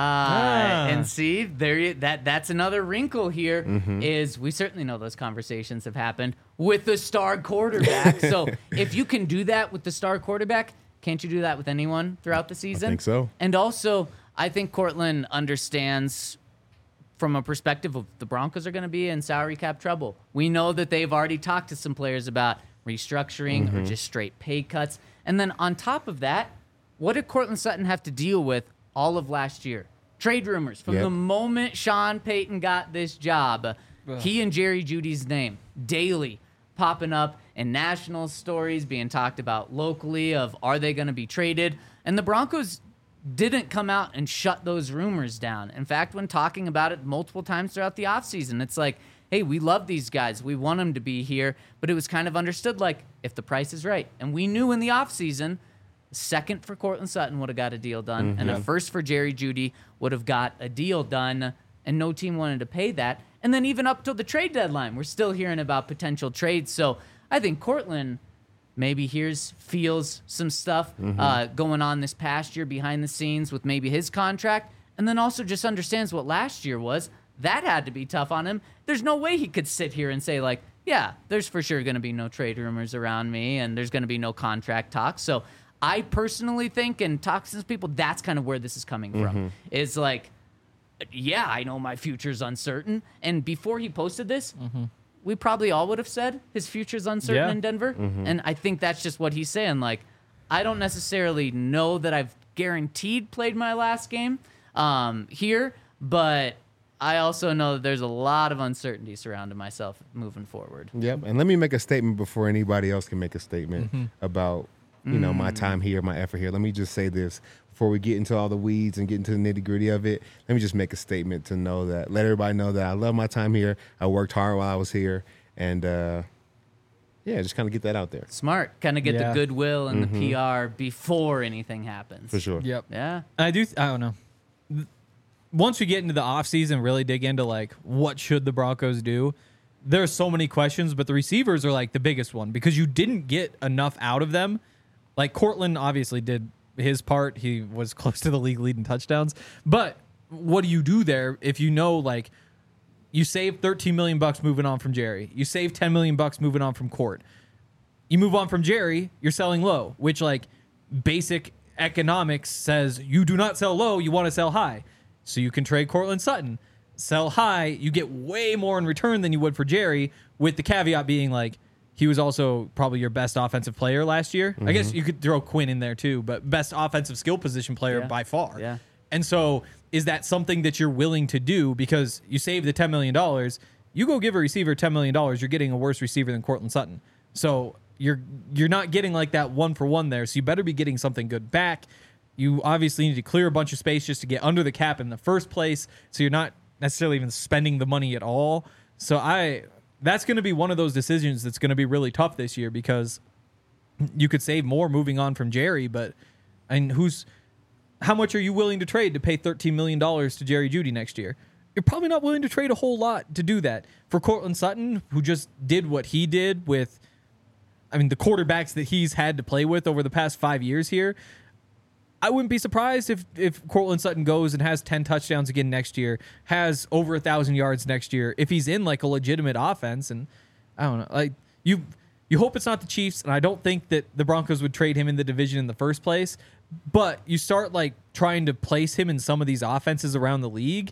And see, that's another wrinkle here is we certainly know those conversations have happened with the star quarterback. So if you can do that with the star quarterback, can't you do that with anyone throughout the season? I think so. And also, I think Courtland understands from a perspective of the Broncos are going to be in salary cap trouble. We know that they've already talked to some players about restructuring or just straight pay cuts. And then on top of that, what did Courtland Sutton have to deal with all of last year? Trade rumors. From the moment Sean Payton got this job, he and Jerry Jeudy's name daily popping up in national stories, being talked about locally of are they going to be traded? And the Broncos didn't come out and shut those rumors down. In fact, when talking about it multiple times throughout the offseason, it's like, hey, we love these guys. We want them to be here. But it was kind of understood like if the price is right. And we knew in the offseason, second for Courtland Sutton would have got a deal done, and a first for Jerry Jeudy would have got a deal done, and no team wanted to pay that. And then even up till the trade deadline, we're still hearing about potential trades. So I think Courtland maybe feels some stuff going on this past year behind the scenes with maybe his contract, and then also just understands what last year was. That had to be tough on him. There's no way he could sit here and say, like, yeah, there's for sure going to be no trade rumors around me, and there's going to be no contract talks. So I personally think, and talks to people, that's kind of where this is coming from. Is like, yeah, I know my future's uncertain. And before he posted this, we probably all would have said his future's uncertain in Denver. And I think that's just what he's saying. Like, I don't necessarily know that I've guaranteed played my last game here, but I also know that there's a lot of uncertainty surrounding myself moving forward. Yep. And let me make a statement before anybody else can make a statement about my time here, my effort here. Let me just say this before we get into all the weeds and get into the nitty gritty of it. Let me just make a statement to let everybody know that I love my time here. I worked hard while I was here, and just kind of get that out there. Smart. Kind of get the goodwill and the PR before anything happens. For sure. Yep. Yeah. I don't know. Once we get into the offseason, really dig into like what should the Broncos do, there's so many questions, but the receivers are like the biggest one because you didn't get enough out of them. Like Courtland obviously did his part. He was close to the league leading touchdowns. But what do you do there if you know like you save $13 million moving on from Jerry, you save $10 million moving on from Court, you move on from Jerry, you're selling low, which like basic economics says you do not sell low, you want to sell high. So you can trade Courtland Sutton, sell high, you get way more in return than you would for Jerry, with the caveat being like he was also probably your best offensive player last year. I guess you could throw Quinn in there too, but best offensive skill position player by far. Yeah. And so is that something that you're willing to do because you save the $10 million, you go give a receiver $10 million, you're getting a worse receiver than Courtland Sutton. So you're not getting like that 1-for-1 there, so you better be getting something good back. You obviously need to clear a bunch of space just to get under the cap in the first place, so you're not necessarily even spending the money at all. So that's going to be one of those decisions that's going to be really tough this year because you could save more moving on from Jerry, but how much are you willing to trade to pay $13 million to Jerry Jeudy next year? You're probably not willing to trade a whole lot to do that. For Courtland Sutton, who just did what he did with, the quarterbacks that he's had to play with over the past 5 years here, I wouldn't be surprised if Courtland Sutton goes and has 10 touchdowns again next year, has over 1,000 yards next year, if he's in like a legitimate offense. And I don't know, like you hope it's not the Chiefs, and I don't think that the Broncos would trade him in the division in the first place, but you start like trying to place him in some of these offenses around the league,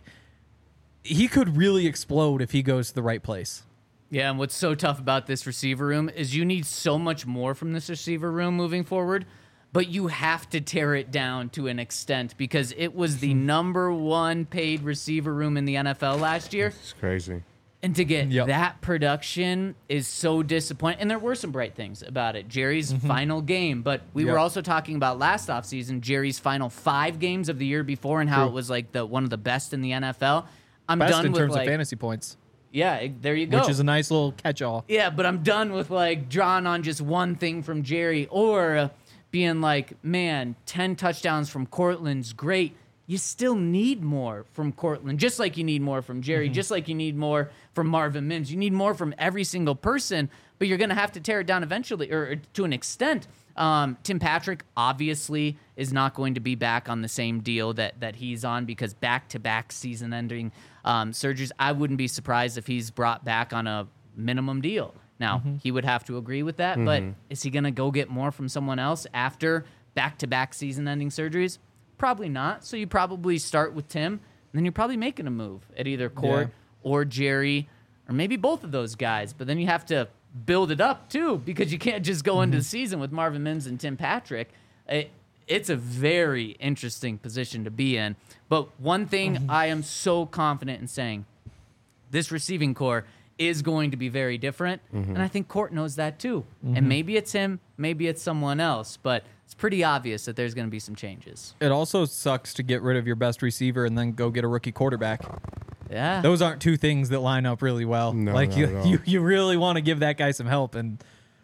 he could really explode if he goes to the right place. Yeah, and what's so tough about this receiver room is you need so much more from this receiver room moving forward, but you have to tear it down to an extent because it was the number one paid receiver room in the NFL last year. It's crazy. And to get that production is so disappointing. And there were some bright things about it. Jerry's final game, but we were also talking about last offseason, Jerry's final 5 games of the year before and how it was like one of the best in the NFL. I'm best done in with terms like, of fantasy points. Yeah, there you go. Which is a nice little catch-all. Yeah, but I'm done with like drawing on just one thing from Jerry or being like, man, 10 touchdowns from Courtland's great. You still need more from Courtland, just like you need more from Jerry, just like you need more from Marvin Mims. You need more from every single person, but you're going to have to tear it down eventually, or to an extent. Tim Patrick obviously is not going to be back on the same deal that he's on because back-to-back season-ending surgeries. I wouldn't be surprised if he's brought back on a minimum deal. Now, he would have to agree with that, but is he going to go get more from someone else after back-to-back season-ending surgeries? Probably not. So you probably start with Tim, and then you're probably making a move at either Court or Jerry, or maybe both of those guys. But then you have to build it up, too, because you can't just go into the season with Marvin Mims and Tim Patrick. It's a very interesting position to be in. But one thing I am so confident in saying, this receiving core is going to be very different, and I think Court knows that, too. And maybe it's him, maybe it's someone else, but it's pretty obvious that there's going to be some changes. It also sucks to get rid of your best receiver and then go get a rookie quarterback. Yeah. Those aren't two things that line up really well. No, like not at all. you really want to give that guy some help, and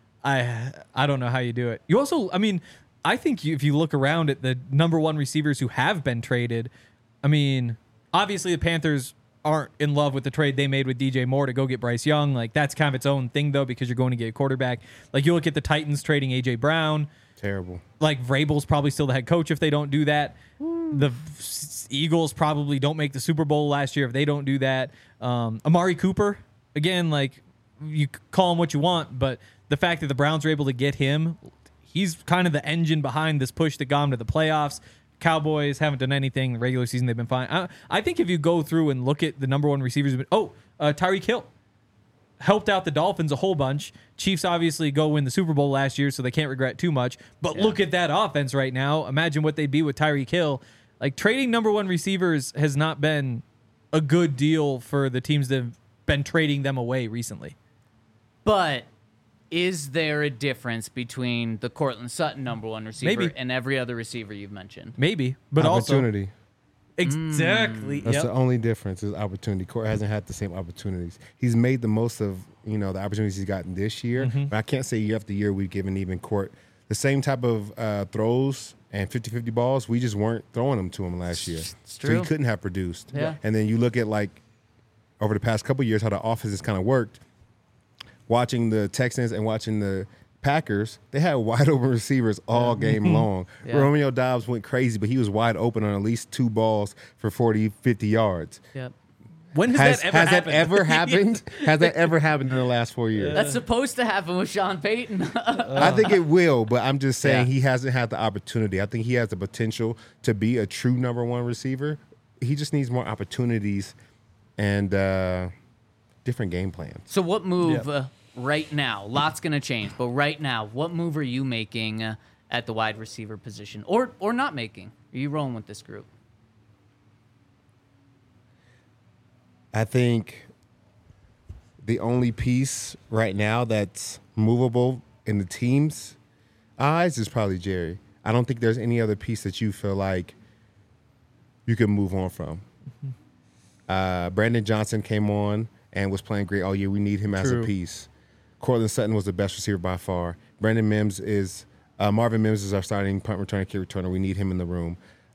I don't know how you do it. You also, I think if you look around at the number one receivers who have been traded, obviously the Panthers aren't in love with the trade they made with DJ Moore to go get Bryce Young. Like, that's kind of its own thing, though, because you're going to get a quarterback. Like, you look at the Titans trading A.J. Brown. Terrible. Like, Vrabel's probably still the head coach if they don't do that. The Eagles probably don't make the Super Bowl last year if they don't do that. Amari Cooper, again, like, you call him what you want, but the fact that the Browns were able to get him, he's kind of the engine behind this push that got him to the playoffs. Cowboys haven't done anything. The regular season, they've been fine. I think if you go through and look at the number one receivers, Tyreek Hill helped out the Dolphins a whole bunch. Chiefs obviously go win the Super Bowl last year, so they can't regret too much. But look at that offense right now. Imagine what they'd be with Tyreek Hill. Like, trading number one receivers has not been a good deal for the teams that have been trading them away recently. But is there a difference between the Cortland Sutton number one receiver Maybe. and every other receiver you've mentioned? Maybe, but Opportunity. exactly. That's Yep. the only difference is opportunity. Court hasn't had the same opportunities. He's made the most of, the opportunities he's gotten this year. Mm-hmm. But I can't say year after year we've given even Court the same type of throws and 50-50 balls. We just weren't throwing them to him last year. It's So true. he couldn't have produced. Yeah. And then you look at, over the past couple of years, how the offense has kind of worked. Watching the Texans and watching the Packers, they had wide open receivers all game long. Yeah. Romeo Doubs went crazy, but he was wide open on at least 2 balls for 40, 50 yards. Yep. When Has that that ever happened? Has that ever happened in the last 4 years? That's supposed to happen with Sean Payton. I think it will, but I'm just saying Yeah. he hasn't had the opportunity. I think he has the potential to be a true number one receiver. He just needs more opportunities and different game plans. So what move Yep. right now? Lots going to change, but right now, what move are you making at the wide receiver position, or not making? Are you rolling with this group? I think the only piece right now that's movable in the team's eyes is probably Jerry. I don't think there's any other piece that you feel like you can move on from. Brandon Johnson came on and was playing great all year. We need him as a True. piece. Cortland Sutton was the best receiver by far. Marvin Mims is our starting punt returner, kick returner. We need him in the room.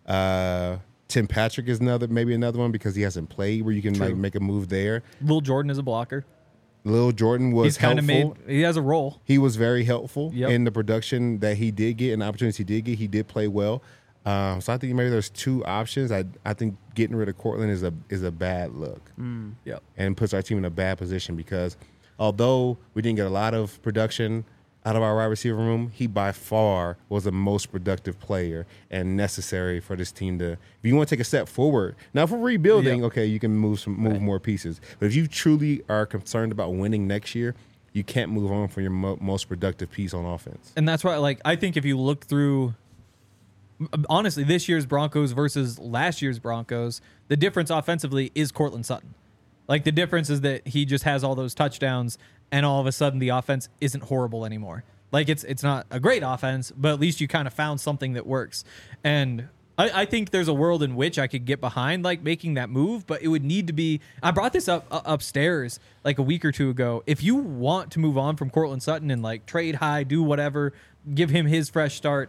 Tim Patrick is maybe another one because he hasn't played where you can make a move there. Lil Jordan is a blocker. Lil Jordan was He's kind of helpful. he has a role. He was very helpful Yep. in the production that he did get and the opportunities he did get. He did play well. So I think maybe there's 2 options. I think getting rid of Cortland is a bad look Yep. and puts our team in a bad position because although we didn't get a lot of production out of our wide receiver room, he by far was the most productive player and necessary for this team to. If you want to take a step forward, now if we're rebuilding, Yep. okay, you can move more pieces. But if you truly are concerned about winning next year, you can't move on from your most productive piece on offense. And that's why, I think if you look through, honestly, this year's Broncos versus last year's Broncos, the difference offensively is Cortland Sutton. The difference is that he just has all those touchdowns, and all of a sudden the offense isn't horrible anymore. It's not a great offense, but at least you kind of found something that works. And I think there's a world in which I could get behind making that move, but it would need to be. I brought this up upstairs a week or 2 ago. If you want to move on from Cortland Sutton and trade high, do whatever, give him his fresh start,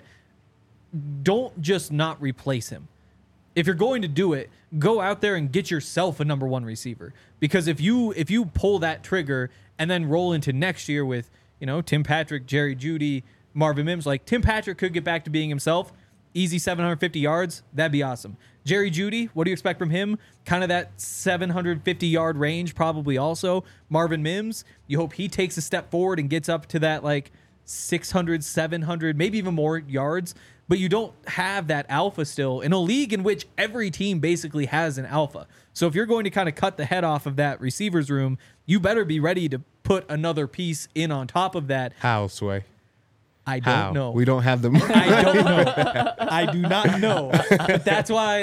don't just not replace him. If you're going to do it, go out there and get yourself a number one receiver. Because if you pull that trigger and then roll into next year with Tim Patrick, Jerry Jeudy, Marvin Mims, Tim Patrick could get back to being himself. Easy 750 yards. That'd be awesome. Jerry Jeudy, what do you expect from him? Kind of that 750-yard range probably also. Marvin Mims, you hope he takes a step forward and gets up to that 600, 700, maybe even more yards. But you don't have that alpha still in a league in which every team basically has an alpha. So if you're going to kind of cut the head off of that receivers room, you better be ready to put another piece in on top of that. How, Sway? I don't How? know. We don't have the. I don't know. I do not know. But that's why,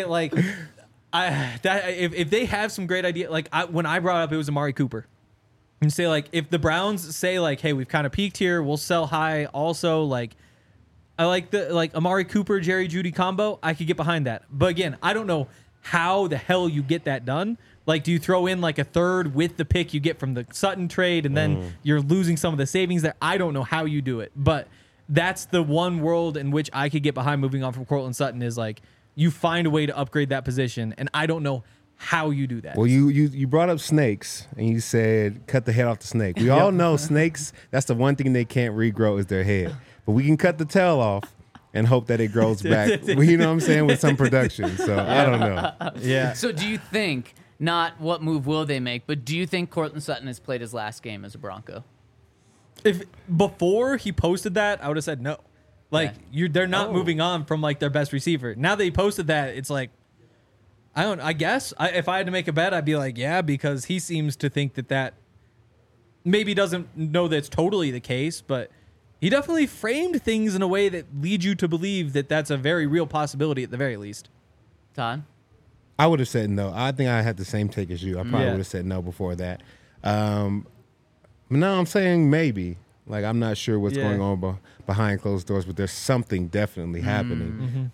if they have some great idea, when I brought up it was Amari Cooper, and say if the Browns say hey, we've kind of peaked here, we'll sell high. Also, I like the Amari Cooper, Jerry Jeudy combo. I could get behind that. But again, I don't know how the hell you get that done. Do you throw in a third with the pick you get from the Sutton trade, and then you're losing some of the savings there? I don't know how you do it, but that's the one world in which I could get behind moving on from Cortland Sutton is you find a way to upgrade that position, and I don't know how you do that. Well, you brought up snakes, and you said cut the head off the snake. We all know snakes, that's the one thing they can't regrow is their head. But we can cut the tail off and hope that it grows back. You know what I'm saying? With some production. So I don't know. Yeah. So do you think, not what move will they make, but do you think Cortland Sutton has played his last game as a Bronco? If before he posted that, I would have said no. They're not moving on from their best receiver. Now that he posted that, it's I guess if I had to make a bet, I'd be yeah, because he seems to think that maybe doesn't know that it's totally the case, but he definitely framed things in a way that leads you to believe that that's a very real possibility at the very least. Todd? I would have said no. I think I had the same take as you. I probably Yeah. would have said no before that. But now I'm saying maybe. Like, I'm not sure what's going on behind closed doors, but there's something definitely happening.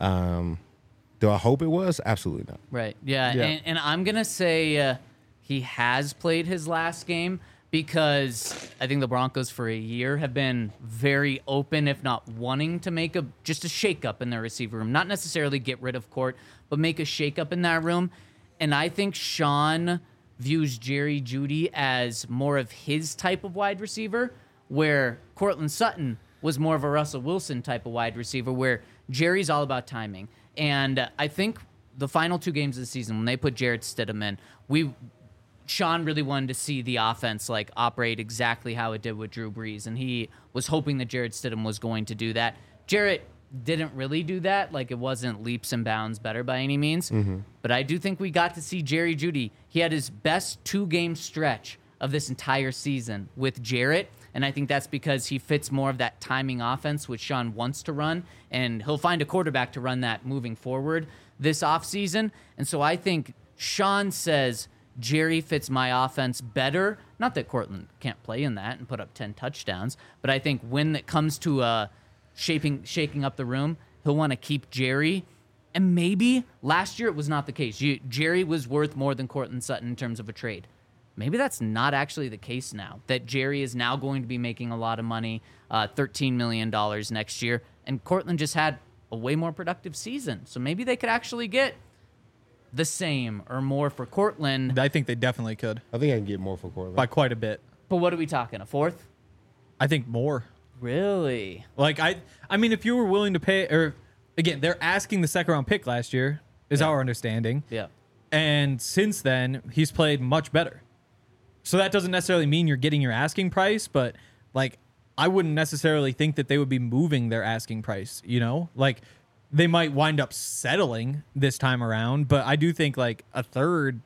Do I hope it was? Absolutely not. Right. Yeah. Yeah. And I'm going to say he has played his last game because I think the Broncos for a year have been very open, if not wanting to make just a shakeup in their receiver room. Not necessarily get rid of Court, but make a shakeup in that room. And I think Sean views Jerry Jeudy as more of his type of wide receiver, where Cortland Sutton was more of a Russell Wilson type of wide receiver, where Jerry's all about timing. And I think the final 2 games of the season, when they put Jarrett Stidham in, Sean really wanted to see the offense like operate exactly how it did with Drew Brees, and he was hoping that Jarrett Stidham was going to do that. Jarrett didn't really do that. Like, it wasn't leaps and bounds better by any means. But I do think we got to see Jerry Jeudy. He had his best 2-game stretch of this entire season with Jarrett, and I think that's because he fits more of that timing offense which Sean wants to run, and he'll find a quarterback to run that moving forward this offseason. And so I think Sean says Jerry fits my offense better. Not that Cortland can't play in that and put up 10 touchdowns, but I think when it comes to shaking up the room, he'll want to keep Jerry. And maybe last year it was not the case. Jerry was worth more than Cortland Sutton in terms of a trade. Maybe that's not actually the case now, that Jerry is now going to be making a lot of money, $13 million next year, and Cortland just had a way more productive season. So maybe they could actually get the same or more for Cortland. I think they definitely could I think I can get more for Cortland. by quite a bit. But what are we talking, a 4th? I think more. Really? Like, I mean, if you were willing to pay, or again, they're asking the 2nd-round pick last year, is our understanding. Yeah. And since then, he's played much better. So that doesn't necessarily mean you're getting your asking price, but like, I wouldn't necessarily think that they would be moving their asking price, you know? Like, they might wind up settling this time around, but I do think like a third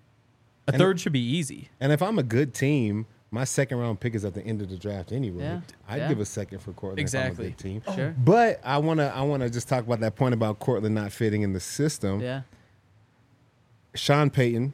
should be easy. And if I'm a good team, my 2nd-round pick is at the end of the draft anyway. Yeah. I'd give a second for Cortland Exactly. if I'm a good team. Sure. But I wanna just talk about that point about Cortland not fitting in the system. Yeah. Sean Payton,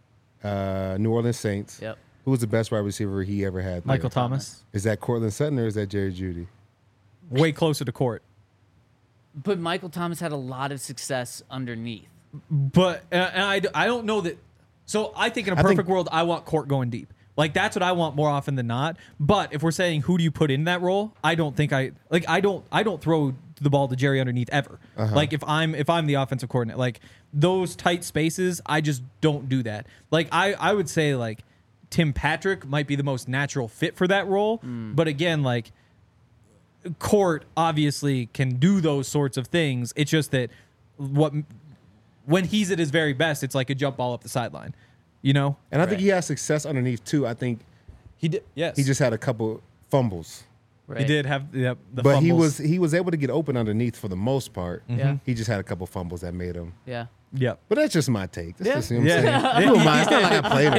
New Orleans Saints. Yep. Who was the best wide receiver he ever had? Michael Thomas. Is that Cortland Sutton or is that Jerry Jeudy? Way closer to court. But Michael Thomas had a lot of success underneath. But and I don't know that. So I think in a perfect world, I want Court going deep. Like, that's what I want more often than not. But if we're saying who do you put in that role, I don't think I don't throw the ball to Jerry underneath ever. Like, if I'm the offensive coordinator, like those tight spaces, I just don't do that. Like, I would say like Tim Patrick might be the most natural fit for that role. But again, like, Court obviously can do those sorts of things. It's just that when he's at his very best, it's like a jump ball up the sideline, you know? And I think he has success underneath too. I think He did. Yes, he just had a couple fumbles. Right? he did have the But fumbles. he was able to get open underneath for the most part. Yeah. He just had a couple fumbles that made him. Yeah. Yep. But that's just my take. That's Yeah. just, you know what Yeah. I'm saying? Who am I? It's not like I played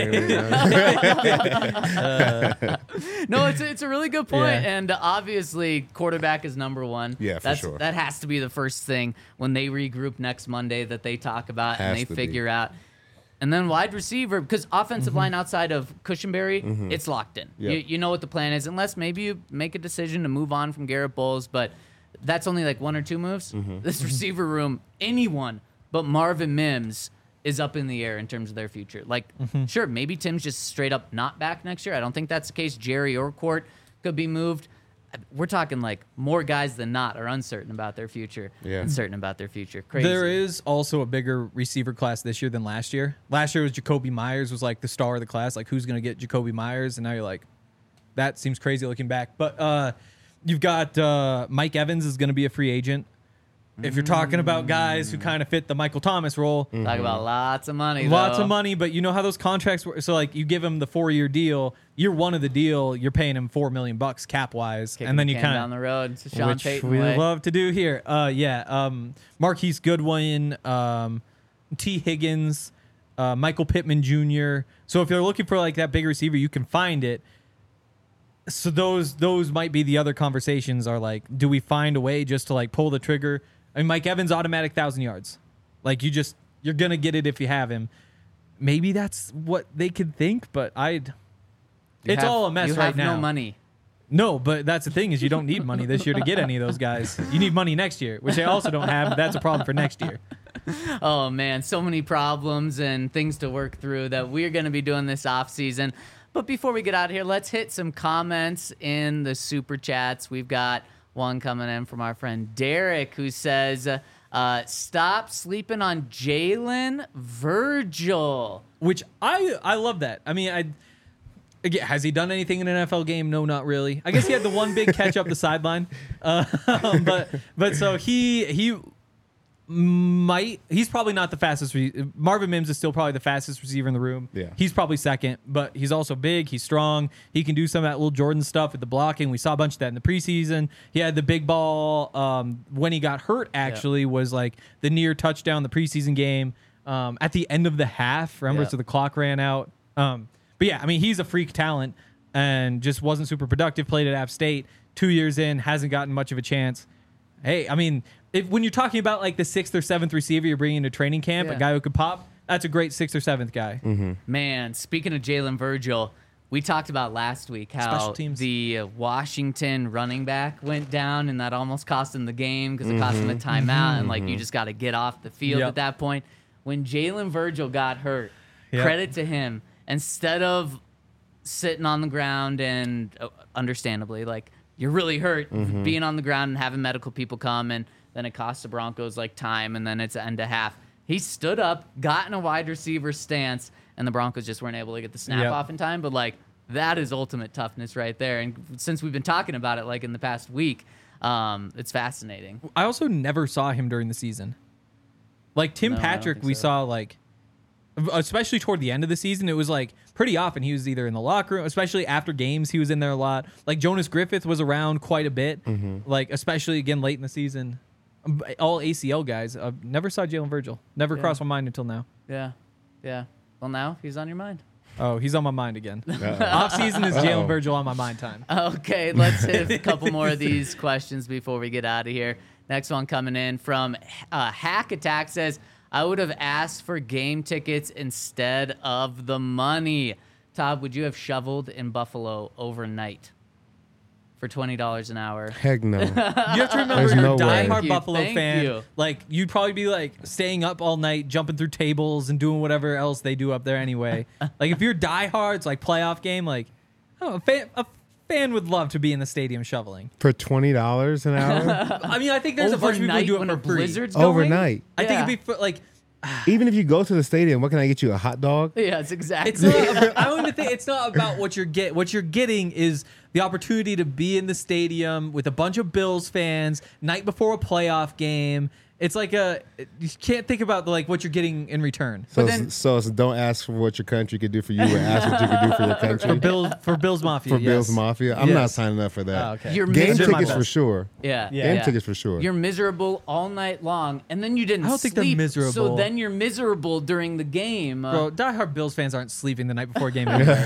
it. No, it's a really good point. Yeah. And obviously, quarterback is number one. Yeah, for sure. That has to be the first thing when they regroup next Monday that they talk about and Has they to figure out. And then wide receiver, because offensive line outside of Cushenberry, it's locked in. Yeah. You know what the plan is, unless maybe you make a decision to move on from Garrett Bowles, but that's only like 1 or 2 moves. This receiver room, anyone but Marvin Mims is up in the air in terms of their future. Like, sure, maybe Tim's just straight up not back next year. I don't think that's the case. Jerry or Court could be moved. We're talking like more guys than not are uncertain about their future Yeah. and certain about their future. Crazy. There is also a bigger receiver class this year than last year. Last year was Jacoby Myers was like the star of the class. Like, who's going to get Jacoby Myers? And now you're like, that seems crazy looking back. But you've got Mike Evans is going to be a free agent. If you're talking about guys who kind of fit the Michael Thomas role, Talk about lots of money. lots though. of money, but you know how those contracts work. So like, you give him the 4-year deal, year 1 of the deal, you're paying him $4 million cap wise, Kicking and then the you can kind down the road. It's a Sean which Payton we way. love to do here. Marquise Goodwin, T. Higgins, Michael Pittman Jr. So if you're looking for like that big receiver, you can find it. So those might be the other conversations. Are like, do we find a way just to like pull the trigger? I mean, Mike Evans automatic 1,000 yards. Like, you're gonna get it if you have him. Maybe that's what they could think, but it's all a mess you right have now. no money. No, but that's the thing is you don't need money this year to get any of those guys. You need money next year, which they also don't have. But that's a problem for next year. Oh man, so many problems and things to work through that we're going to be doing this off season. But before we get out of here, let's hit some comments in the super chats. We've got one coming in from our friend Derek who says, "Stop sleeping on Jalen Virgil." Which I love that. I mean, again, has he done anything in an NFL game? No, not really. I guess he had the one big catch up the sideline. But so he's probably not the fastest. Marvin Mims is still probably the fastest receiver in the room. Yeah. He's probably second, but he's also big. He's strong. He can do some of that little Jordan stuff with the blocking. We saw a bunch of that in the preseason. He had the big ball when he got hurt, actually, was like the near touchdown the preseason game at the end of the half. Remember, so the clock ran out. But yeah, I mean, he's a freak talent and just wasn't super productive. Played at App State 2 years in, hasn't gotten much of a chance. Hey, I mean, when you're talking about like the 6th or 7th receiver you're bringing into training camp, a guy who could pop, that's a great 6th or 7th guy. Mm-hmm. Man, speaking of Jalen Virgil, we talked about last week how the Washington running back went down and that almost cost him the game because it cost him a timeout and like you just got to get off the field at that point. When Jalen Virgil got hurt, credit to him. Instead of sitting on the ground and understandably, like you're really hurt, being on the ground and having medical people come and then it costs the Broncos like time and then it's end of half. He stood up, got in a wide receiver stance, and the Broncos just weren't able to get the snap off in time. But like that is ultimate toughness right there. And since we've been talking about it like in the past week, it's fascinating. I also never saw him during the season. Like Tim Patrick, we saw like, especially toward the end of the season, it was like pretty often he was either in the locker room, especially after games, he was in there a lot. Like Jonas Griffith was around quite a bit, like especially again late in the season. All ACL guys. Never saw Jalen Virgil. Never crossed my mind until now. Yeah. Well, now he's on your mind. Oh, he's on my mind again. Off season is Jalen Virgil on my mind time. Okay, let's hit a couple more of these questions before we get out of here. Next one coming in from Hack Attack says, "I would have asked for game tickets instead of the money." Todd, would you have shoveled in Buffalo overnight for $20 an hour? Heck no. You have to remember, There's you're no a way. diehard Buffalo Thank fan. you. Like you'd probably be like staying up all night, jumping through tables, and doing whatever else they do up there anyway. Like if you're diehards, like playoff game, like a fan would love to be in the stadium shoveling. For $20 an hour? I mean, I think there's a bunch of people who do it when for a free. blizzard's going? Overnight. I think it'd be like. Even if you go to the stadium, what can I get you? A hot dog? Yeah, it's exactly. It's not. I don't even think it's not about what you're getting. What you're getting is the opportunity to be in the stadium with a bunch of Bills fans night before a playoff game. It's like you can't think about like what you're getting in return. So, so don't ask for what your country could do for you, but ask what you could do for your country. For Bills Mafia. For yes. Bills Mafia? I'm not signing up for that. Oh, okay. You're Game miserable. tickets for sure. Yeah. Game tickets for sure. You're miserable all night long, and then you didn't I don't think they're sleep, miserable. so then you're miserable during the game. Bro, diehard Bills fans aren't sleeping the night before a game anyway.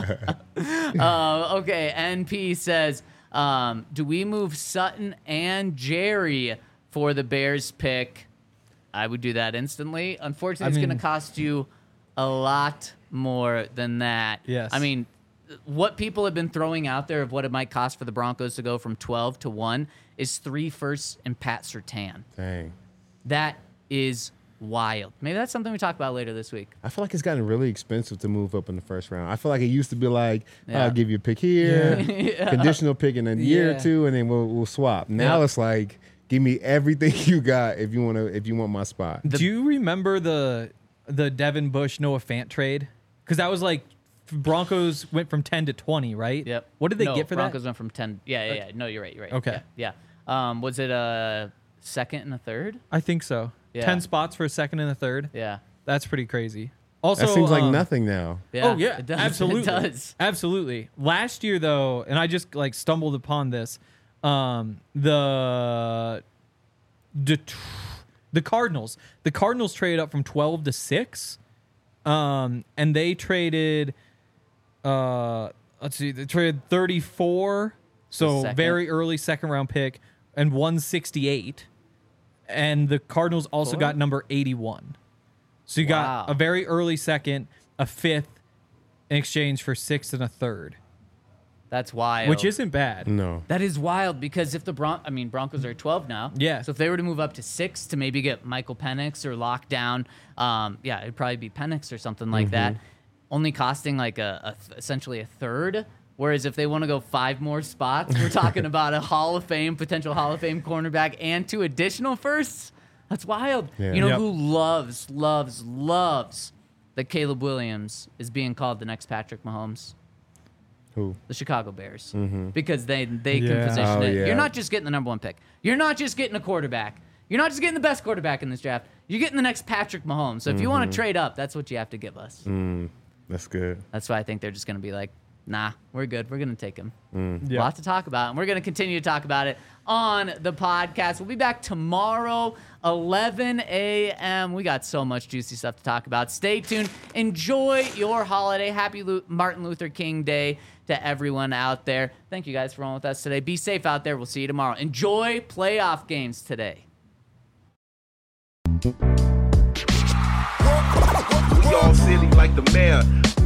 Okay, NP says, do we move Sutton and Jerry for the Bears pick? I would do that instantly. Unfortunately, it's going to cost you a lot more than that. Yes. I mean, what people have been throwing out there of what it might cost for the Broncos to go from 12 to 1 is 3 firsts and Pat Surtain. Dang. That is wild. Maybe that's something we talk about later this week. I feel like it's gotten really expensive to move up in the first round. I feel like it used to be like, I'll give you a pick here, conditional pick in a year or two, and then we'll swap. Now it's like, give me everything you got if you want my spot. Do you remember the Devin Bush Noah Fant trade? Because that was like Broncos went from 10 to 20, right? Yep. What did they get for Broncos that? went from 10. Yeah. No, you're right. Okay. Yeah. Was it a second and a third? I think so. Yeah. 10 spots for a second and a third. Yeah. That's pretty crazy. Also, That seems like nothing now. Yeah. Oh yeah, It does. absolutely, It does. absolutely. Last year though, and I just like stumbled upon this, the Cardinals traded up from 12 to 6, and they traded they traded 34, so very early second round pick, and 168, and the Cardinals also got number 81. So you got a very early second, a fifth in exchange for 6th and a third. That's wild. which isn't bad. No. That is wild because if the Broncos are at 12 now. Yeah. So if they were to move up to 6 to maybe get Michael Penix or lock down, it'd probably be Penix or something like that, only costing like essentially a third. Whereas if they want to go 5 more spots, we're talking about a potential Hall of Fame cornerback and 2 additional firsts. That's wild. Yeah. You know Yep. who loves that Caleb Williams is being called the next Patrick Mahomes? Who? The Chicago Bears, because they can Yeah. position Oh, it. yeah. You're not just getting the number 1 pick. You're not just getting a quarterback. You're not just getting the best quarterback in this draft. You're getting the next Patrick Mahomes. So if you want to trade up, that's what you have to give us. That's good. That's why I think they're just going to be like, nah, we're good. We're going to take him. Yeah. Lots to talk about, and we're going to continue to talk about it on the podcast. We'll be back tomorrow, 11 a.m. We got so much juicy stuff to talk about. Stay tuned. Enjoy your holiday. Happy Martin Luther King Day to everyone out there. Thank you guys for rolling with us today. Be safe out there. We'll see you tomorrow. Enjoy playoff games today. We all silly like the mayor.